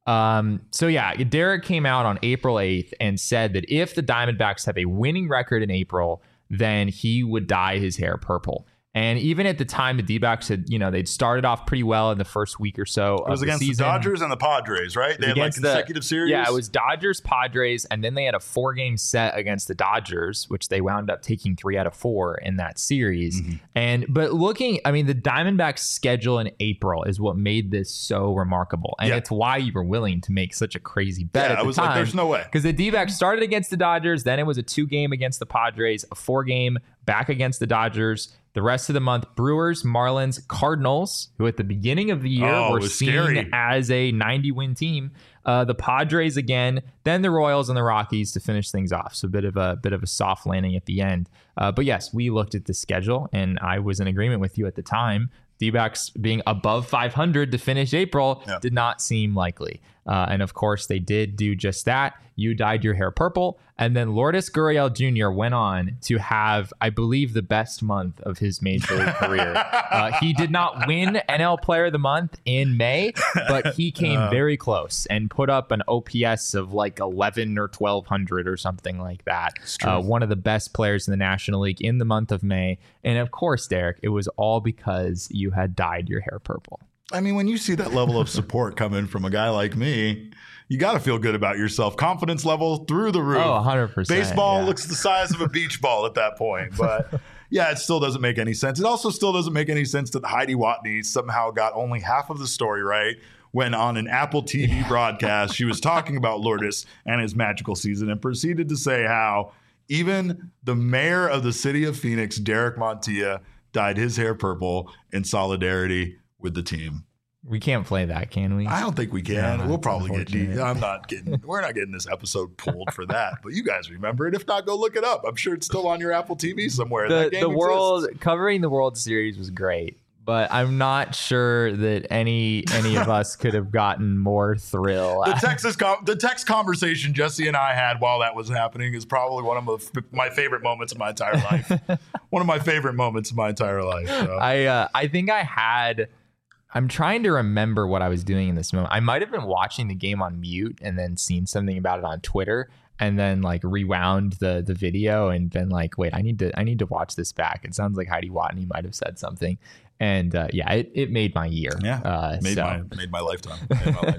Derek came out on April 8th and said that if the Diamondbacks have a winning record in April, then he would dye his hair purple. And even at the time, the D-backs had, they'd started off pretty well in the first week or so. It was against the Dodgers and the Padres, right? They had like consecutive series. Yeah, it was Dodgers, Padres, and then they had a 4-game set against the Dodgers, which they wound up taking 3 out of 4 in that series. Mm-hmm. But the Diamondbacks' schedule in April is what made this so remarkable, and it's why you were willing to make such a crazy bet at the time. I was like, there's no way, because the D-backs started against the Dodgers, then it was a 2-game against the Padres, a 4-game back against the Dodgers. The rest of the month, Brewers, Marlins, Cardinals, who at the beginning of the year were seen as a 90-win team. The Padres again, then the Royals and the Rockies to finish things off. So a bit of a soft landing at the end. But yes, we looked at the schedule, and I was in agreement with you at the time. D-backs being above 500 to finish April did not seem likely. And of course, they did do just that. You dyed your hair purple. And then Lourdes Gurriel Jr. went on to have, I believe, the best month of his Major League career. He did not win NL Player of the Month in May, but he came very close and put up an OPS of like 11 or 1200 or something like that. One of the best players in the National League in the month of May. And of course, Derek, it was all because you had dyed your hair purple. I mean, when you see that level of support coming from a guy like me, you got to feel good about yourself. Confidence level through the roof. Oh, 100%. Baseball looks the size of a beach ball at that point. But yeah, it still doesn't make any sense. It also still doesn't make any sense that Heidi Watney somehow got only half of the story right when on an Apple TV broadcast, she was talking about Lourdes and his magical season and proceeded to say how even the mayor of the city of Phoenix, Derek Montilla, dyed his hair purple in solidarity with the team. We can't play that, can we? I don't think we can. Yeah, we'll probably get we're not getting this episode pulled for that. But you guys remember it. If not, go look it up. I'm sure it's still on your Apple TV somewhere. Covering the World Series was great, but I'm not sure that any of us could have gotten more thrill. The text conversation Jesse and I had while that was happening is probably one of my favorite moments of my entire life. One of my favorite moments of my entire life. So. I think I had. I'm trying to remember what I was doing in this moment. I might have been watching the game on mute and then seen something about it on Twitter. and then like rewound the video and been like, wait, I need to watch this back. It sounds like Heidi Watney might have said something. And it made my year. Yeah, made my lifetime.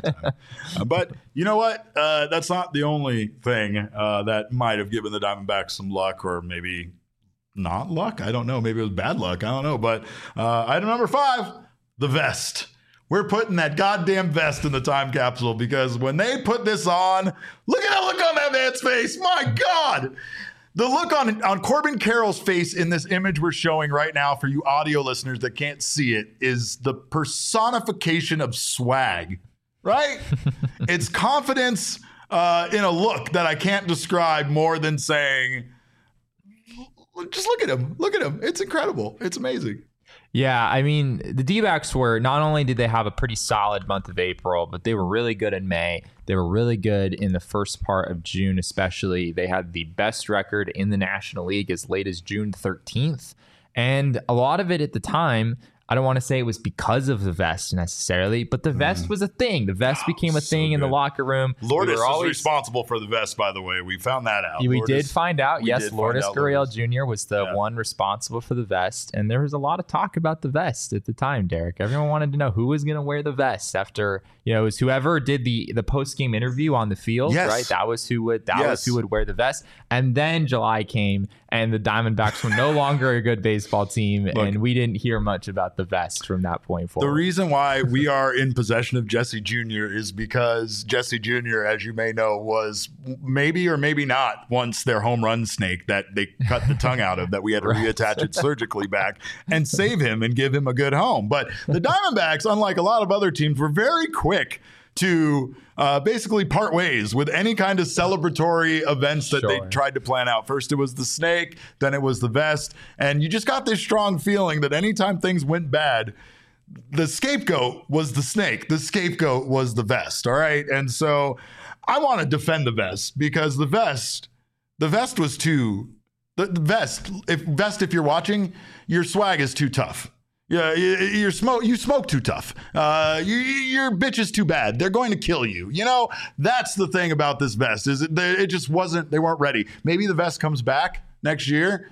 But you know what? That's not the only thing that might have given the Diamondbacks some luck, or maybe not luck. I don't know. Maybe it was bad luck. I don't know. But item number 5, the vest. We're putting that goddamn vest in the time capsule, because when they put this on, look at the look on that man's face. My God. The look on Corbin Carroll's face in this image we're showing right now for you audio listeners that can't see it is the personification of swag, right? It's confidence in a look that I can't describe more than saying, just look at him. Look at him. It's incredible. It's amazing. Yeah, I mean, the D-backs were, not only did they have a pretty solid month of April, but they were really good in May. They were really good in the first part of June, especially. They had the best record in the National League as late as June 13th. And a lot of it at the time, I don't want to say it was because of the vest necessarily, but the vest was a thing. The vest became a thing in the locker room. Lourdes is responsible for the vest, by the way. We found that out. We did find out. Yes, Lourdes Gurriel Jr. was the one responsible for the vest. And there was a lot of talk about the vest at the time, Derek. Everyone wanted to know who was going to wear the vest after, it was whoever did the post-game interview on the field, right? That was who would wear the vest. And then July came, and the Diamondbacks were no longer a good baseball team, and we didn't hear much about the vest from that point forward. The reason why we are in possession of Jesse Jr. is because Jesse Jr., as you may know, was maybe or maybe not once their home run snake that they cut the tongue out of, that we had to reattach it surgically back and save him and give him a good home. But the Diamondbacks, unlike a lot of other teams, were very quick to basically part ways with any kind of celebratory events that they tried to plan out. First, it was the snake, then it was the vest. And you just got this strong feeling that anytime things went bad, the scapegoat was the snake. The scapegoat was the vest. All right. And so I want to defend the vest, because the vest was too, the vest, if you're watching, your swag is too tough. Yeah, you smoke too tough. Your bitch is too bad. They're going to kill you. That's the thing about this vest, is it just wasn't, they weren't ready. Maybe the vest comes back next year,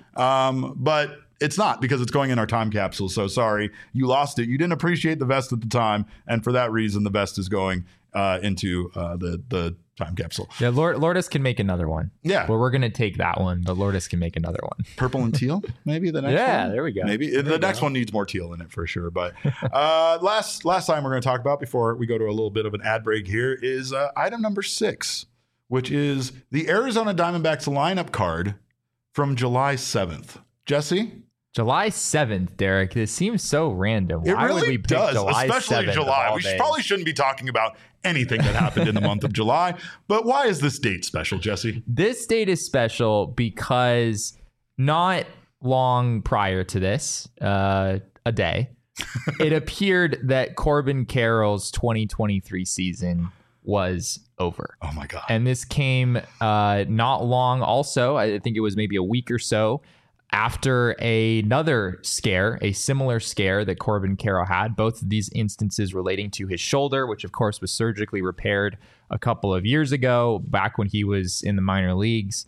but it's not, because it's going in our time capsule. So sorry, you lost it. You didn't appreciate the vest at the time, and for that reason, the vest is going into the time capsule. Yeah, Lourdes can make another one. Yeah. Well, we're going to take that one, but Lourdes can make another one. Purple and teal, maybe the next one? Yeah, there we go. Maybe. The next one needs more teal in it for sure. But last time we're going to talk about, before we go to a little bit of an ad break here, is item number 6, which is the Arizona Diamondbacks lineup card from July 7th. Jesse? July 7th, Derek. This seems so random. It Why really would we pick does, July especially 7th July. We probably shouldn't be talking about anything that happened in the month of July. But why is this date special, Jesse? This date is special because not long prior to this, a day, it appeared that Corbin Carroll's 2023 season was over. Oh my God. And this came not long also, I think it was maybe a week or so, after another scare, a similar scare that Corbin Carroll had, both of these instances relating to his shoulder, which of course was surgically repaired a couple of years ago, back when he was in the minor leagues.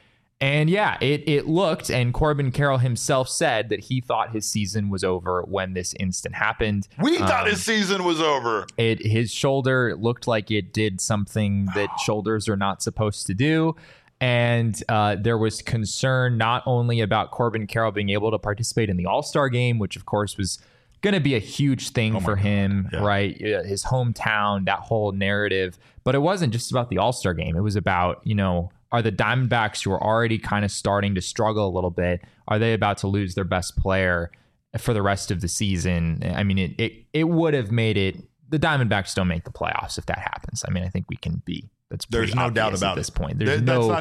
And yeah, it looked, and Corbin Carroll himself said that he thought his season was over when this instant happened. We thought his season was over. His shoulder looked like it did something that shoulders are not supposed to do. And there was concern not only about Corbin Carroll being able to participate in the All-Star game, which of course was going to be a huge thing for him, right? His hometown, that whole narrative. But it wasn't just about the All-Star game. It was about, are the Diamondbacks, who are already kind of starting to struggle a little bit, are they about to lose their best player for the rest of the season? I mean, it would have made it, the Diamondbacks don't make the playoffs if that happens. I mean, I think we can be. There's no doubt about at this it. point. That's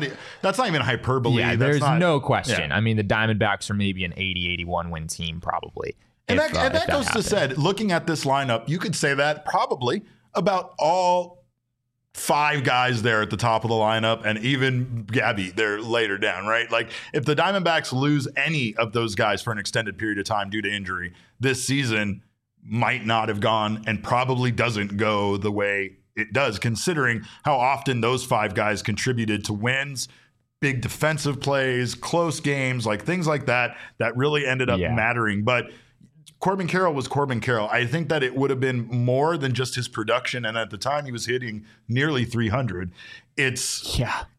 not even hyperbole. Yeah, there's no question. Yeah. I mean, the Diamondbacks are maybe an 80-81 win team, probably. And that goes to said, looking at this lineup, you could say that probably about all 5 guys there at the top of the lineup, and even Gabby there later down, right? Like, if the Diamondbacks lose any of those guys for an extended period of time due to injury, this season might not have gone, and probably doesn't go the way it does, considering how often those 5 guys contributed to wins, big defensive plays, close games, like things like that really ended up mattering. But Corbin Carroll was Corbin Carroll. I think that it would have been more than just his production, and at the time he was hitting nearly 300. It's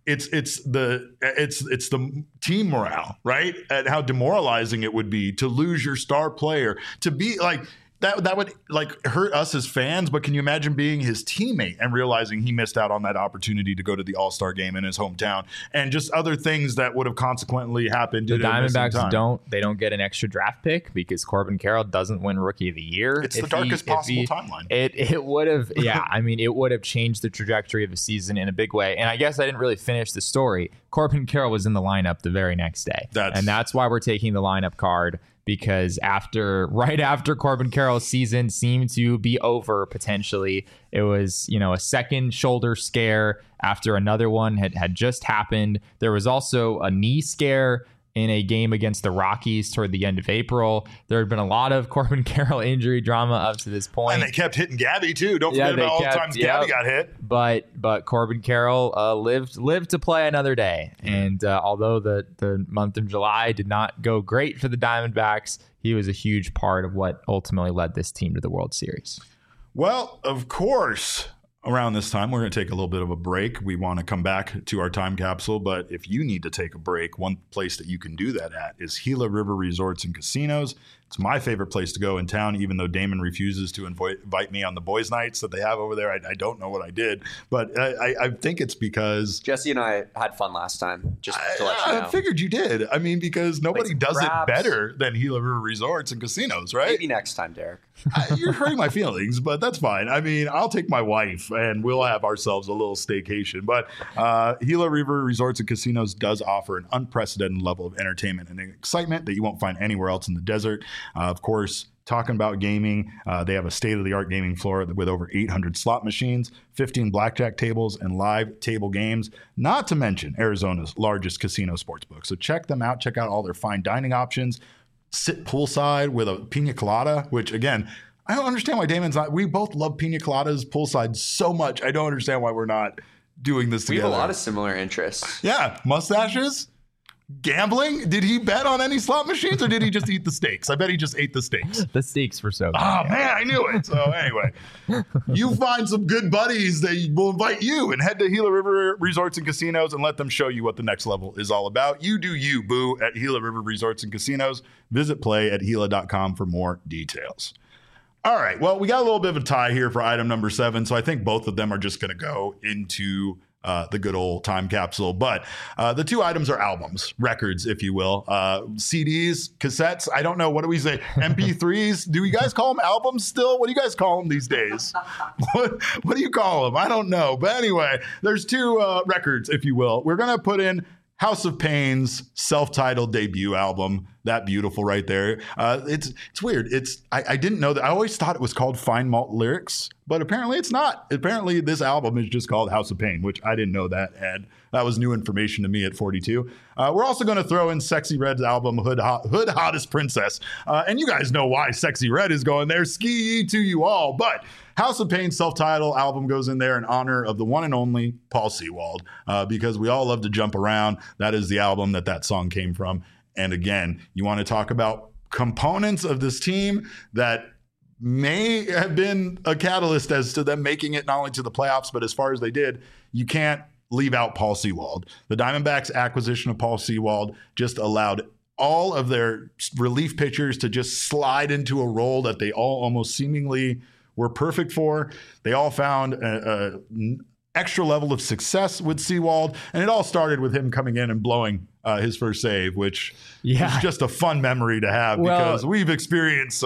the team morale, right? And how demoralizing it would be to lose your star player, to be like that would like hurt us as fans. But can you imagine being his teammate and realizing he missed out on that opportunity to go to the All-Star game in his hometown, and just other things that would have consequently happened? The Diamondbacks don't get an extra draft pick because Corbin Carroll doesn't win Rookie of the Year. It's the darkest possible timeline. It would have, I mean, it would have changed the trajectory of the season in a big way. And I guess I didn't really finish the story. Corbin Carroll was in the lineup the very next day, and that's why we're taking the lineup card. Because right after Corbin Carroll's season seemed to be over potentially, it was, a second shoulder scare after another one had just happened. There was also a knee scare in a game against the Rockies toward the end of April. There had been a lot of Corbin Carroll injury drama up to this point. And they kept hitting Gabby too. Don't forget about all the times Gabby got hit. But Corbin Carroll lived to play another day. And although the month of July did not go great for the Diamondbacks, he was a huge part of what ultimately led this team to the World Series. Well, of course, around this time, we're going to take a little bit of a break. We want to come back to our time capsule, but if you need to take a break, one place that you can do that at is Gila River Resorts and Casinos. It's my favorite place to go in town, even though Damon refuses to invite me on the boys' nights that they have over there. I don't know what I did, but I think it's because Jesse and I had fun last time, just to let you know. I figured you did. I mean, because nobody does it better than Gila River Resorts and Casinos, right? Maybe next time, Derek. You're hurting my feelings, but that's fine. I mean, I'll take my wife and we'll have ourselves a little staycation. But Gila River Resorts and Casinos does offer an unprecedented level of entertainment and excitement that you won't find anywhere else in the desert. Of course, talking about gaming, they have a state-of-the-art gaming floor with over 800 slot machines, 15 blackjack tables, and live table games, not to mention Arizona's largest casino sportsbook. So check them out. Check out all their fine dining options. Sit poolside with a pina colada, which, again, I don't understand why Damon's not. We both love pina coladas poolside so much. I don't understand why we're not doing this together. We have a lot of similar interests. Yeah. Mustaches. Gambling? Did he bet on any slot machines or did he just eat the steaks? I bet he just ate the steaks. The steaks were so good. Oh, man, I knew it. So anyway, you find some good buddies that will invite you and head to Gila River Resorts and Casinos and let them show you what the next level is all about. You do you, boo, at Gila River Resorts and Casinos. Visit play@gila.com for more details. All right. Well, we got a little bit of a tie here for item number 7. So I think both of them are just going to go into the good old time capsule. But the 2 items are albums, records, if you will. CDs, cassettes. I don't know. What do we say? MP3s? Do you guys call them albums still? What do you guys call them these days? What do you call them? I don't know. But anyway, there's 2 records, if you will. We're going to put in House of Pain's self-titled debut album. That beautiful right there. It's weird. I didn't know that. I always thought it was called Fine Malt Lyrics, but apparently it's not. Apparently this album is just called House of Pain, which I didn't know that, Ed. That was new information to me at 42. We're also going to throw in Sexy Red's album, Hood Hottest Princess. And you guys know why Sexy Red is going there. Ski to you all. But House of Pain's self-titled album goes in there in honor of the one and only Paul Sewald, because we all love to jump around. That is the album that song came from. And again, you want to talk about components of this team that may have been a catalyst as to them making it not only to the playoffs, but as far as they did, you can't leave out Paul Sewald. The Diamondbacks' acquisition of Paul Sewald just allowed all of their relief pitchers to just slide into a role that they all almost seemingly were perfect for. They all found an extra level of success with Sewald, and it all started with him coming in and blowing his first save, which is just a fun memory to have, because we've experienced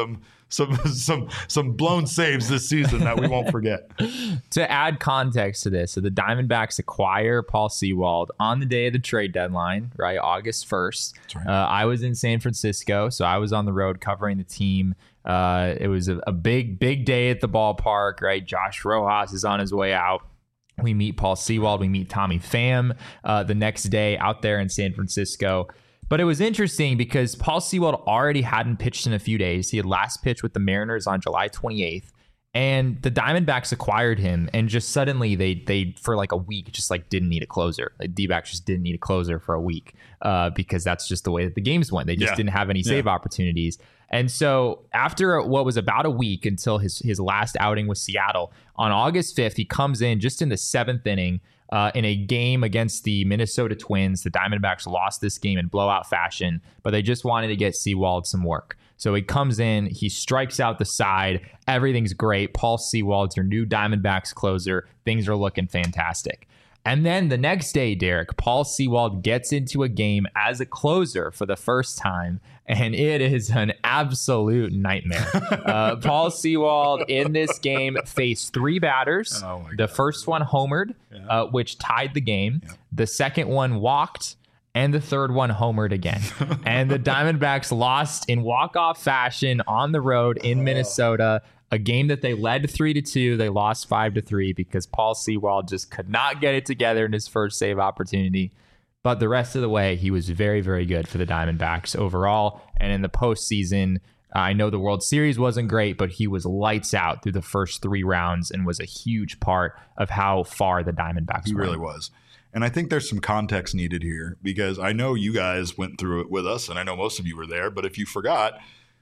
some blown saves this season that we won't forget. To add context to this, so the Diamondbacks acquire Paul Sewald on the day of the trade deadline, right, August 1st. That's right. I was in San Francisco, so I was on the road covering the team. It was a big day at the ballpark, right? Josh Rojas is on his way out. We meet Paul Sewald. We meet Tommy Pham the next day out there in San Francisco. But it was interesting because Paul Sewald already hadn't pitched in a few days. He had last pitched with the Mariners on July 28th. And the Diamondbacks acquired him, and just suddenly they for like a week just like didn't need a closer. Like D-backs just didn't need a closer for a week because that's just the way that the games went. They just didn't have any save opportunities. And so after what was about a week until his last outing with Seattle, on August 5th, he comes in just in the 7th inning in a game against the Minnesota Twins. The Diamondbacks lost this game in blowout fashion, but they just wanted to get Sewald some work. So he comes in, he strikes out the side. Everything's great. Paul Sewald's your new Diamondbacks closer. Things are looking fantastic. And then the next day, Derek, Paul Sewald gets into a game as a closer for the first time, and it is an absolute nightmare. Paul Sewald in this game faced 3 batters. The first one homered, which tied the game. The second one walked, and the third one homered again. And the Diamondbacks lost in walk-off fashion on the road in Minnesota, a game that they led 3-2. They lost 5-3 because Paul Sewald just could not get it together in his first save opportunity. But the rest of the way, he was very, very good for the Diamondbacks overall. And in the postseason, I know the World Series wasn't great, but he was lights out through the first 3 rounds and was a huge part of how far the Diamondbacks went. He really was. And I think there's some context needed here because I know you guys went through it with us, and I know most of you were there. But if you forgot,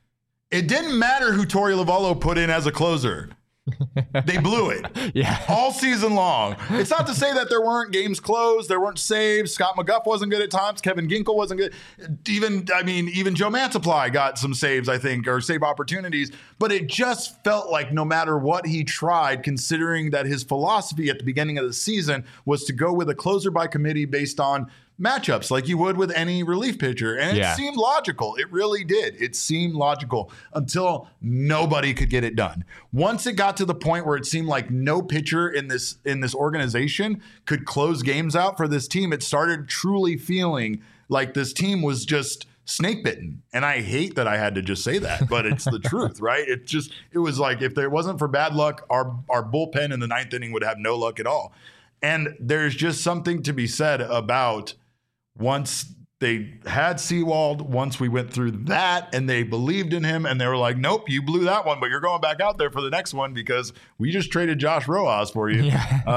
it didn't matter who Torey Lovullo put in as a closer. They blew it all season long. It's not to say that there weren't games closed, there weren't saves. Scott McGuff wasn't good at times. Kevin Ginkel wasn't good. Even Joe Mansupply got some saves, I think, or save opportunities. But it just felt like no matter what he tried, considering that his philosophy at the beginning of the season was to go with a closer by committee based on matchups like you would with any relief pitcher. And it seemed logical. It really did. It seemed logical until nobody could get it done. Once it got to the point where it seemed like no pitcher in this organization could close games out for this team, it started truly feeling like this team was just snake bitten. And I hate that I had to just say that, but it's the truth, right? It was like if there wasn't for bad luck, our bullpen in the 9th inning would have no luck at all. And there's just something to be said about once they had Sewald, once we went through that and they believed in him and they were like, nope, you blew that one, but you're going back out there for the next one because we just traded Josh Rojas for you.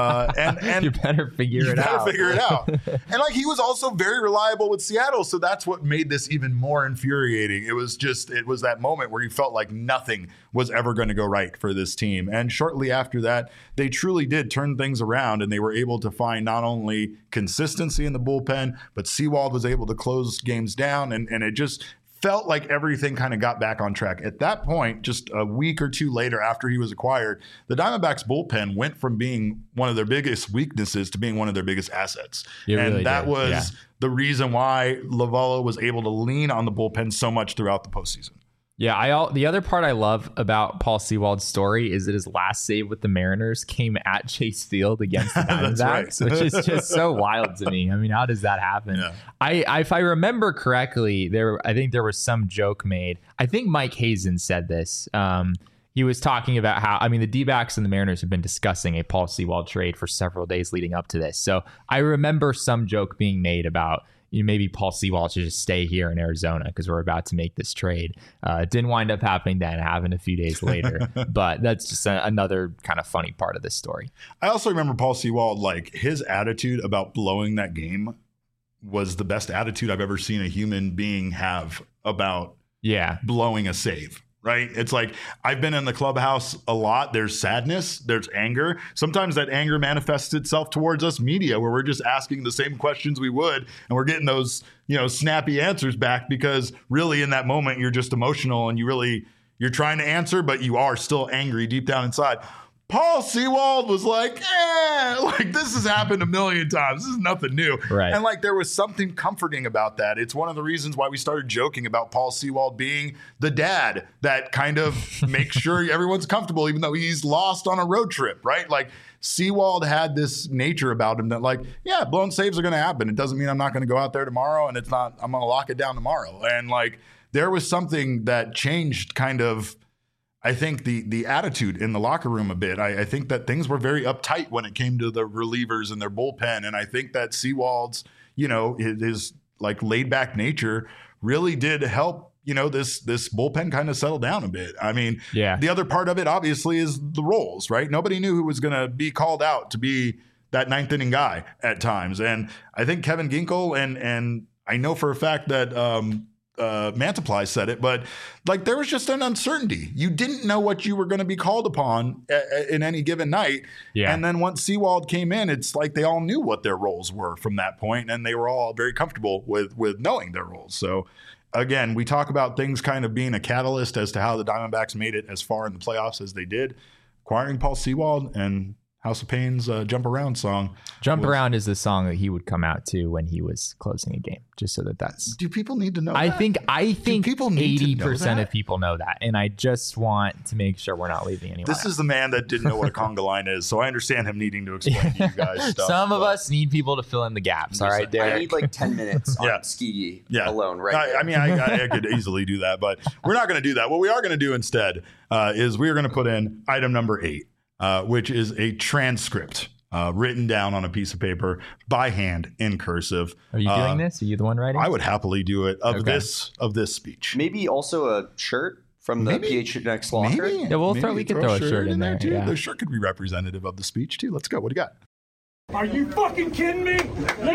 And you better figure it out. And like he was also very reliable with Seattle. So that's what made this even more infuriating. It was that moment where you felt like nothing was ever going to go right for this team. And shortly after that, they truly did turn things around and they were able to find not only consistency in the bullpen, but Sewald was able to close games down, and it just felt like everything kind of got back on track. At that point, just a week or two later after he was acquired, the Diamondbacks bullpen went from being one of their biggest weaknesses to being one of their biggest assets. That was the reason why Lovullo was able to lean on the bullpen so much throughout the postseason. Yeah, the other part I love about Paul Sewald's story is that his last save with the Mariners came at Chase Field against the Diamondbacks, which is just so wild to me. I mean, how does that happen? Yeah. If I remember correctly, I think there was some joke made. I think Mike Hazen said this. He was talking about how, the D-backs and the Mariners have been discussing a Paul Sewald trade for several days leading up to this. So I remember some joke being made about maybe Paul Sewald should just stay here in Arizona because we're about to make this trade. It didn't wind up happening then. It happened a few days later. But that's just another kind of funny part of this story. I also remember Paul Sewald, like his attitude about blowing that game was the best attitude I've ever seen a human being have about blowing a save. Right? It's like I've been in the clubhouse a lot. There's sadness. There's anger. Sometimes that anger manifests itself towards us media where we're just asking the same questions we would and we're getting those, snappy answers back because really in that moment you're just emotional and you're trying to answer, but you are still angry deep down inside. Paul Sewald was like, this has happened a million times. This is nothing new. Right. And there was something comforting about that. It's one of the reasons why we started joking about Paul Sewald being the dad that kind of makes sure everyone's comfortable, even though he's lost on a road trip, right? Sewald had this nature about him that blown saves are going to happen. It doesn't mean I'm not going to go out there tomorrow and I'm going to lock it down tomorrow. And there was something that changed kind of, I think the attitude in the locker room a bit. I think that things were very uptight when it came to the relievers and their bullpen. And I think that Sewald's, his laid back nature really did help this bullpen kind of settled down a bit. I mean, Yeah. the other part of it obviously is the roles, right? Nobody knew who was going to be called out to be that ninth inning guy at times. And I think Kevin Ginkel and I know for a fact that Mantiply said it, but like there was just an uncertainty. You didn't know what you were going to be called upon in any given night. Yeah. And then once Sewald came in, it's like they all knew what their roles were from that point, and they were all very comfortable with knowing their roles. So again, we talk about things kind of being a catalyst as to how the Diamondbacks made it as far in the playoffs as they did. Acquiring Paul Sewald and House of Pain's Jump Around song. Around is the song that he would come out to when he was closing a game, just so that's. Do people need to know I that? think people need to know 80% that? of people know that. And I just want to make sure we're not leaving anyone This out. is the man that didn't know what a conga line is, so I understand him needing to explain to you guys stuff. Some of us need people to fill in the gaps. All right, I Derek. need like 10 minutes on Yeah. ski Yeah. alone right there. I mean, I could easily do that, but we're not going to do that. What we are going to do instead is we are going to put in item number 8, which is a transcript written down on a piece of paper by hand in cursive. Are you doing this? Are you the one writing? I would happily do it of Okay. this speech. Maybe also a shirt from the PHNX Law shirt. Maybe. Yeah, we Maybe could throw a shirt in there, too. yeah. The shirt could be representative of the speech too. Let's go. What do you got? Are you fucking kidding me?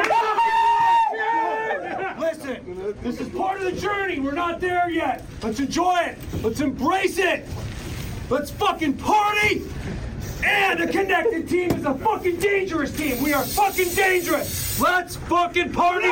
Listen, this is part of the journey. We're not there yet. Let's enjoy it. Let's embrace it. Let's fucking party. And a connected team is a fucking dangerous team. We are fucking dangerous. Let's fucking party.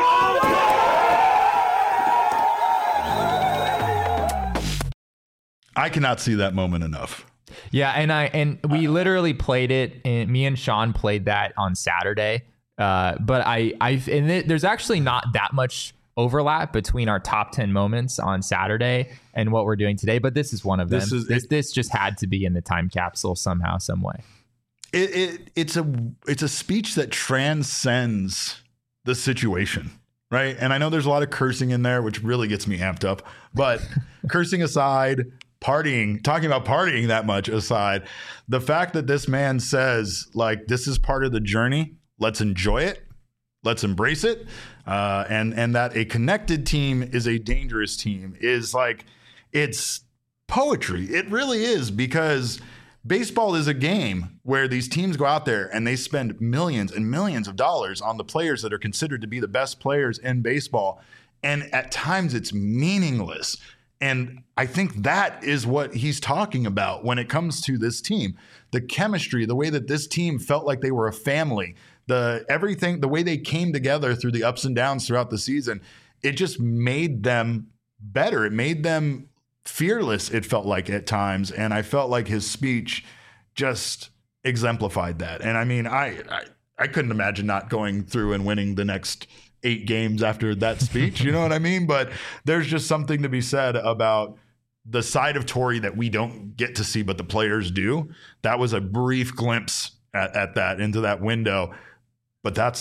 I cannot see that moment enough. Yeah, and we literally played it, and me and Sean played that on Saturday. But there's actually not that much overlap between our top 10 moments on Saturday and what we're doing today, but this is one of them. This just had to be in the time capsule somehow, some way. It's a speech that transcends the situation, right? And I know there's a lot of cursing in there, which really gets me amped up, but cursing aside, talking about partying that much aside, the fact that this man says, like, this is part of the journey, let's enjoy it, let's embrace it, and that a connected team is a dangerous team is like, it's poetry. It really is, because baseball is a game where these teams go out there and they spend millions and millions of dollars on the players that are considered to be the best players in baseball. And at times it's meaningless. And I think that is what he's talking about when it comes to this team. The chemistry, the way that this team felt like they were a family, everything, the way they came together through the ups and downs throughout the season, it just made them better. It made them fearless, it felt like at times. And I felt like his speech just exemplified that. And I mean, I couldn't imagine not going through and winning the next 8 games after that speech. You know what I mean? But there's just something to be said about the side of Torey that we don't get to see, but the players do. That was a brief glimpse at that, into that window. But that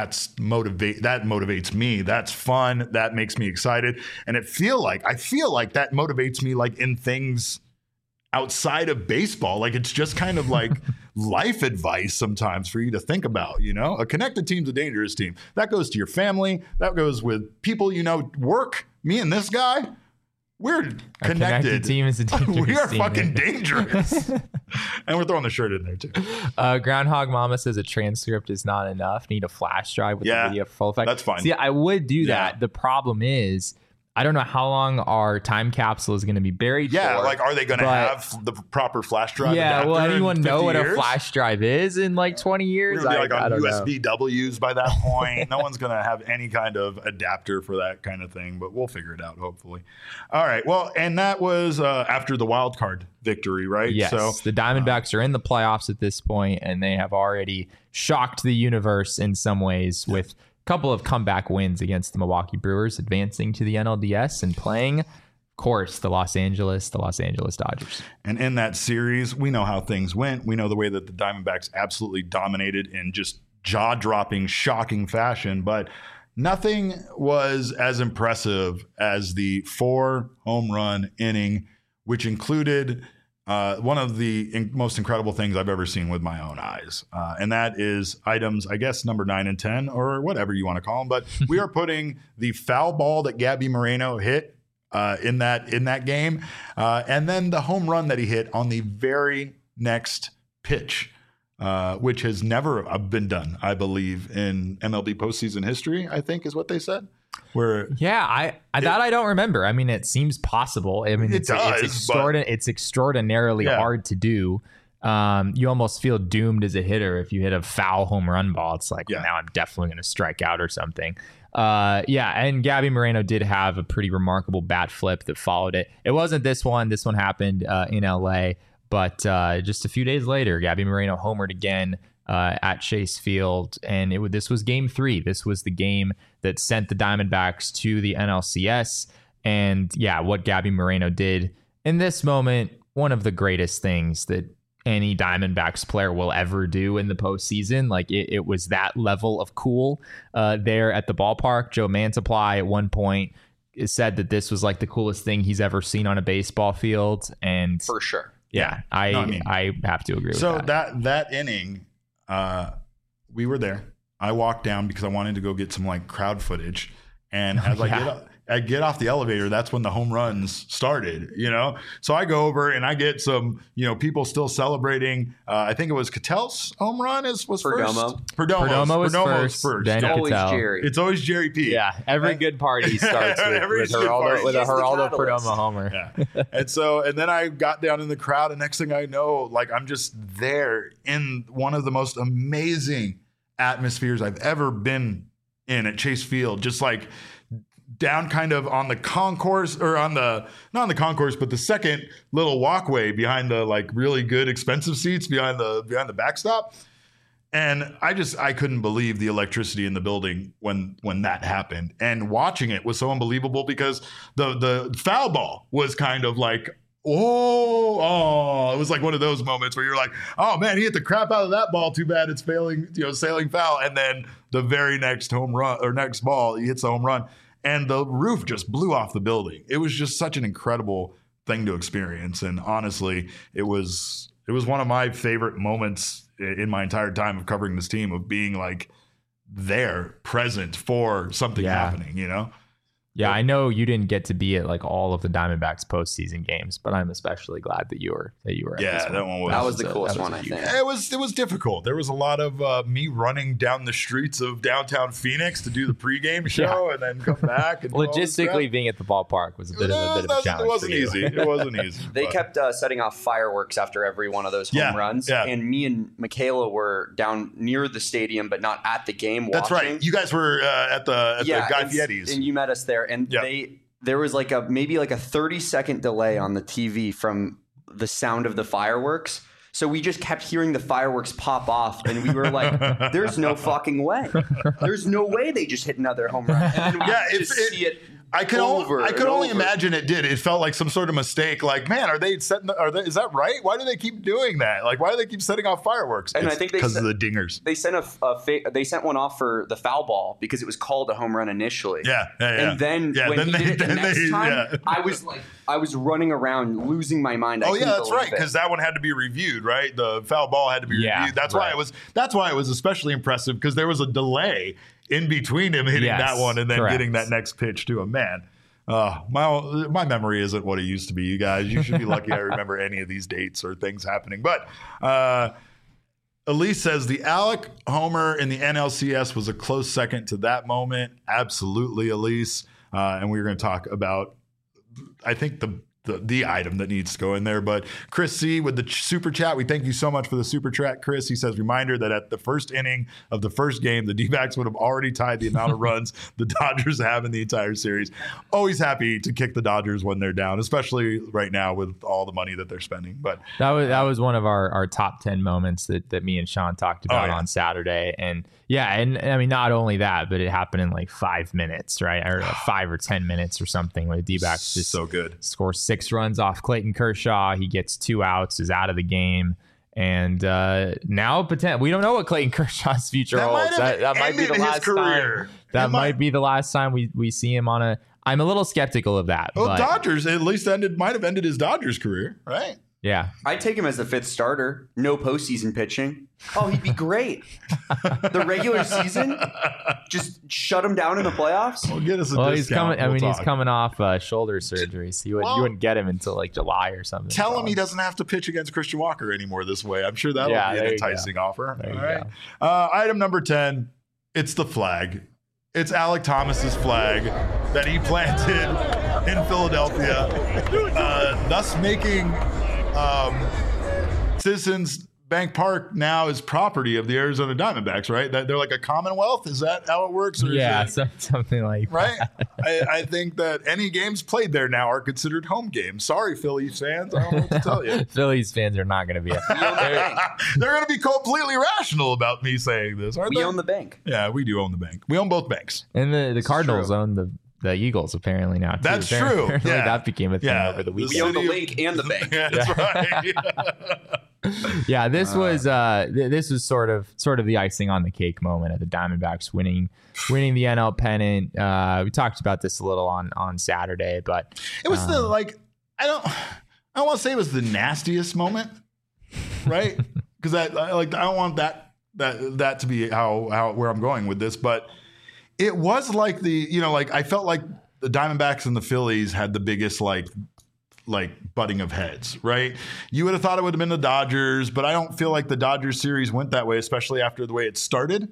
motivates me. That's fun. That makes me excited. And I feel like that motivates me, like, in things outside of baseball. Like, it's just kind of like life advice sometimes for you to think about, you know? A connected team's a dangerous team. That goes to your family. That goes with people, work. Me and this guy, we're connected. A connected team is a dangerous We are team. fucking dangerous. And we're throwing the shirt in there too. Groundhog Mama says a transcript is not enough. Need a flash drive with the video for full effect. That's fine. See, I would do that. The problem is, I don't know how long our time capsule is going to be buried for. Like, are they going to have the proper flash drive? Yeah, will adapter in anyone know 50 what years? a flash drive is in like 20 years? We're going to be I on don't know. USBWs by that point. No one's going to have any kind of adapter for that kind of thing, but we'll figure it out, hopefully. All right. Well, and that was after the wild card victory, right? Yes. So the Diamondbacks are in the playoffs at this point, and they have already shocked the universe in some ways with couple of comeback wins against the Milwaukee Brewers, advancing to the NLDS and playing, of course, the Los Angeles Dodgers. And in that series, we know how things went. We know the way that the Diamondbacks absolutely dominated in just jaw-dropping, shocking fashion, but nothing was as impressive as the 4-home run inning, which included one of the most incredible things I've ever seen with my own eyes. And that is items, I guess, number 9 and 10, or whatever you want to call them. But we are putting the foul ball that Gabby Moreno hit in that game. And then the home run that he hit on the very next pitch, which has never been done, I believe, in MLB postseason history, I think is what they said. I don't remember. I mean, it seems possible. I mean, it's extraordinarily hard to do. You almost feel doomed as a hitter if you hit a foul home run ball. It's like, now I'm definitely going to strike out or something. And Gabby Moreno did have a pretty remarkable bat flip that followed it. It wasn't this one. This one happened in LA, but just a few days later, Gabby Moreno homered again at Chase Field, and this was Game 3. This was the game that sent the Diamondbacks to the NLCS. And what Gabby Moreno did in this moment, one of the greatest things that any Diamondbacks player will ever do in the postseason. Like it was that level of cool there at the ballpark. Joe Mantiply at one point said that this was like the coolest thing he's ever seen on a baseball field. And for sure. I have to agree with that. So that inning, we were there. I walked down because I wanted to go get some like crowd footage. And as I get off the elevator, that's when the home runs started, So I go over and I get some, people still celebrating. I think it was Ketel's home run was Perdomo. first. Perdomo was first. Then Always Jerry. It's always Jerry P. Yeah, every good party starts with a Geraldo Perdomo homer. Yeah. And then I got down in the crowd, and next thing I know, like I'm just there in one of the most amazing atmospheres I've ever been in at Chase Field, just like down kind of on the concourse, or not on the concourse, but the second little walkway behind the like really good expensive seats behind the backstop. And I couldn't believe the electricity in the building when that happened. And watching it was so unbelievable because the foul ball was kind of like, it was like one of those moments where you're like, oh man, he hit the crap out of that ball. Too bad it's sailing foul. And then the very next home run or next ball, he hits the home run. And the roof just blew off the building. It was just such an incredible thing to experience. And honestly, it was one of my favorite moments in my entire time of covering this team, of being like there, present for something happening, Yeah, I know you didn't get to be at like all of the Diamondbacks postseason games, but I'm especially glad that you were at this one. That was the coolest one, I think. It was difficult. There was a lot of me running down the streets of downtown Phoenix to do the pregame show and then come back. And logistically, being at the ballpark was a bit of a challenge. It wasn't easy. It wasn't easy. They kept setting off fireworks after every one of those home runs, and me and Michaela were down near the stadium, but not at the game. That's right. You guys were at the Guy Fieri's, and you met us there. And there was like maybe a 30-second delay on the TV from the sound of the fireworks. So we just kept hearing the fireworks pop off, and we were like, there's no fucking way. There's no way they just hit another home run. And then we see it. I could only imagine it did. It felt like some sort of mistake. Like, man, is that right? Why do they keep doing that? Like, why do they keep setting off fireworks? And I think because of the dingers. They sent they sent one off for the foul ball because it was called a home run initially. Yeah. And then when he did it the next time, I was running around losing my mind. That's right, because that one had to be reviewed, right? The foul ball had to be reviewed. That's why it was especially impressive, because there was a delay in between him hitting that one and then getting that next pitch to him. Man, my memory isn't what it used to be, you guys. You should be lucky I remember any of these dates or things happening. But Elise says the Alec homer in the NLCS was a close second to that moment. Absolutely, Elise. And we're going to talk about, I think, the item that needs to go in there. But Chris C with the super chat, we thank you so much for the super chat, Chris. He says, reminder that at the first inning of the first game, the D-backs would have already tied the amount of runs the Dodgers have in the entire series. Always happy to kick the Dodgers when they're down, especially right now with all the money that they're spending. But that was one of our top 10 moments that me and Sean talked about on Saturday. And and I mean, not only that, but it happened in like 5 minutes, right? Or 5 or 10 minutes or something, where the D-backs just so good. Score 6 runs off Clayton Kershaw. He gets 2 outs, is out of the game. And now we don't know what Clayton Kershaw's future holds. That might be the last time. That might be the last time we see him on a. I'm a little skeptical of that. Well, Dodgers at least might have ended his Dodgers career, right? Yeah. I'd take him as the 5th starter. No postseason pitching. Oh, he'd be great. The regular season, just shut him down in the playoffs. Well, get us a He's discount. coming. He's coming off shoulder surgery, so you wouldn't get him until like July or something. Tell him he doesn't have to pitch against Christian Walker anymore this way. I'm sure that'll be an enticing offer. All right. Item number 10. It's the flag. It's Alek Thomas's flag that he planted in Philadelphia, thus making Citizens Bank Park now is property of the Arizona Diamondbacks, right? That they're like a commonwealth. Is that how it works? Or something like right. That. I think that any games played there now are considered home games. Sorry, Phillies fans. I don't know what to tell you. Phillies fans are not going to be. They're going to be completely rational about me saying this, aren't they? We own the bank. Yeah, we do own the bank. We own both banks. And the Cardinals own the Eagles apparently now too. That's true. Yeah. That became a thing over the weekend. We own the link and the bank. Yeah, that's right. Yeah, this was sort of the icing on the cake moment of the Diamondbacks winning the NL pennant. We talked about this a little on Saturday, but it was I don't want to say it was the nastiest moment, right? Because I don't want that to be how where I'm going with this, but it was like I felt like the Diamondbacks and the Phillies had the biggest like butting of heads, right? You would have thought it would have been the Dodgers, but I don't feel like the Dodgers series went that way, especially after the way it started,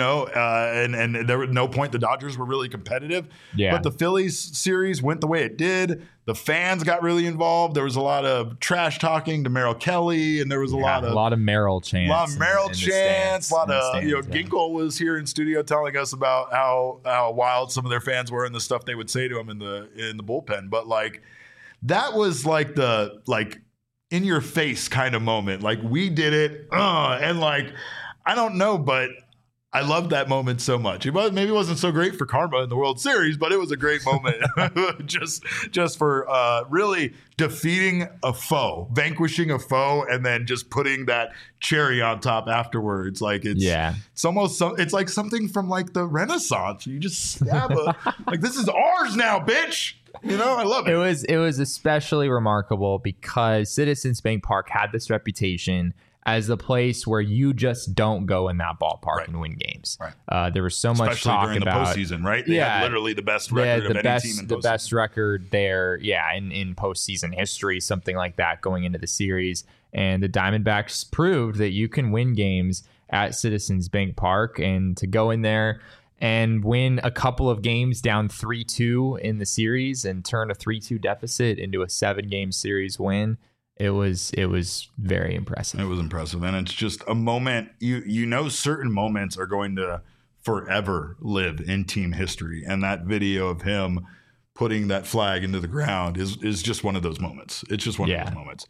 and there was no point the Dodgers were really competitive. Yeah. But the Phillies series went the way it did. The fans got really involved. There was a lot of trash talking to Merrill Kelly, and there was a lot of Merrill chants. A lot of Merrill chants. Ginkel was here in studio telling us about how wild some of their fans were and the stuff they would say to him in the bullpen. But that was like the in your face kind of moment. Like we did it, and I don't know, but I loved that moment so much. Maybe it wasn't so great for karma in the World Series, but it was a great moment just for really defeating a foe, vanquishing a foe, and then just putting that cherry on top afterwards. It's almost it's like something from the Renaissance. You just stab this is ours now, bitch. I love it. It was especially remarkable because Citizens Bank Park had this reputation as the place where you just don't go in that ballpark and win games. Right. There was so much talk during about the postseason, right? They had literally the best record of any team in postseason. The best record there, in postseason history, something like that going into the series. And the Diamondbacks proved that you can win games at Citizens Bank Park, and to go in there and win a couple of games down 3-2 in the series and turn a 3-2 deficit into a 7-game series win. It was very impressive. It was impressive. And it's just a moment, certain moments are going to forever live in team history. And that video of him putting that flag into the ground is just one of those moments. It's just one of those moments.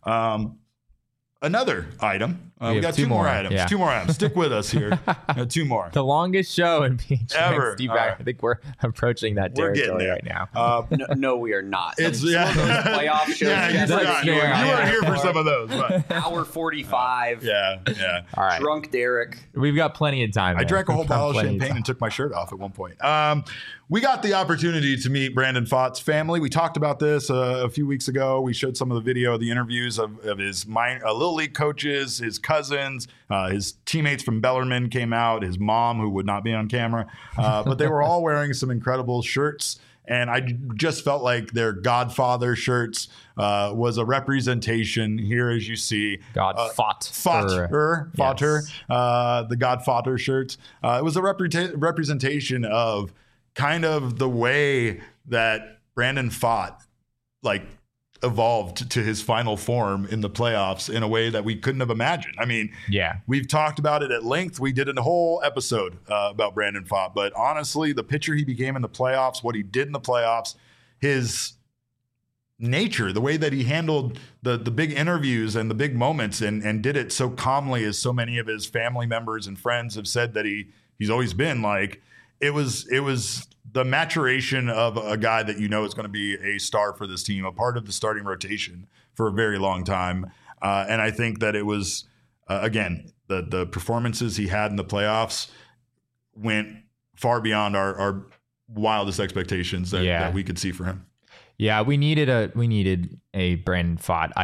Another item. We got two more items. Yeah. 2 more items. Stick with us here. 2 more. The longest show in PHNX ever. I think we're approaching that territory right now. No, we are not. It's those playoff shows. Yeah, you forgot. You weren't here for some of those. But. Hour 45. Yeah. All right. Drunk Derek. We've got plenty of time. I drank a whole bottle of champagne and took my shirt off at one point. We got the opportunity to meet Brandon Pfaadt's family. We talked about this a few weeks ago. We showed some of the video, the interviews of his Little League coaches, his cousins, his teammates from Bellarmine came out, his mom, who would not be on camera. But they were all wearing some incredible shirts. And I just felt like their Godfather shirts was a representation here, as you see. Godfather. The Godfather shirts. It was a representation of kind of the way that Brandon Pfaadt evolved to his final form in the playoffs in a way that we couldn't have imagined. I mean, we've talked about it at length. We did a whole episode about Brandon Pfaadt, but honestly, the pitcher he became in the playoffs, what he did in the playoffs, his nature, the way that he handled the big interviews and the big moments and did it so calmly, as so many of his family members and friends have said that he's always been it was the maturation of a guy that is going to be a star for this team, a part of the starting rotation for a very long time. And I think that it was, again, the performances he had in the playoffs went far beyond our wildest expectations that we could see for him. Yeah, we needed a Brandon Pfaadt item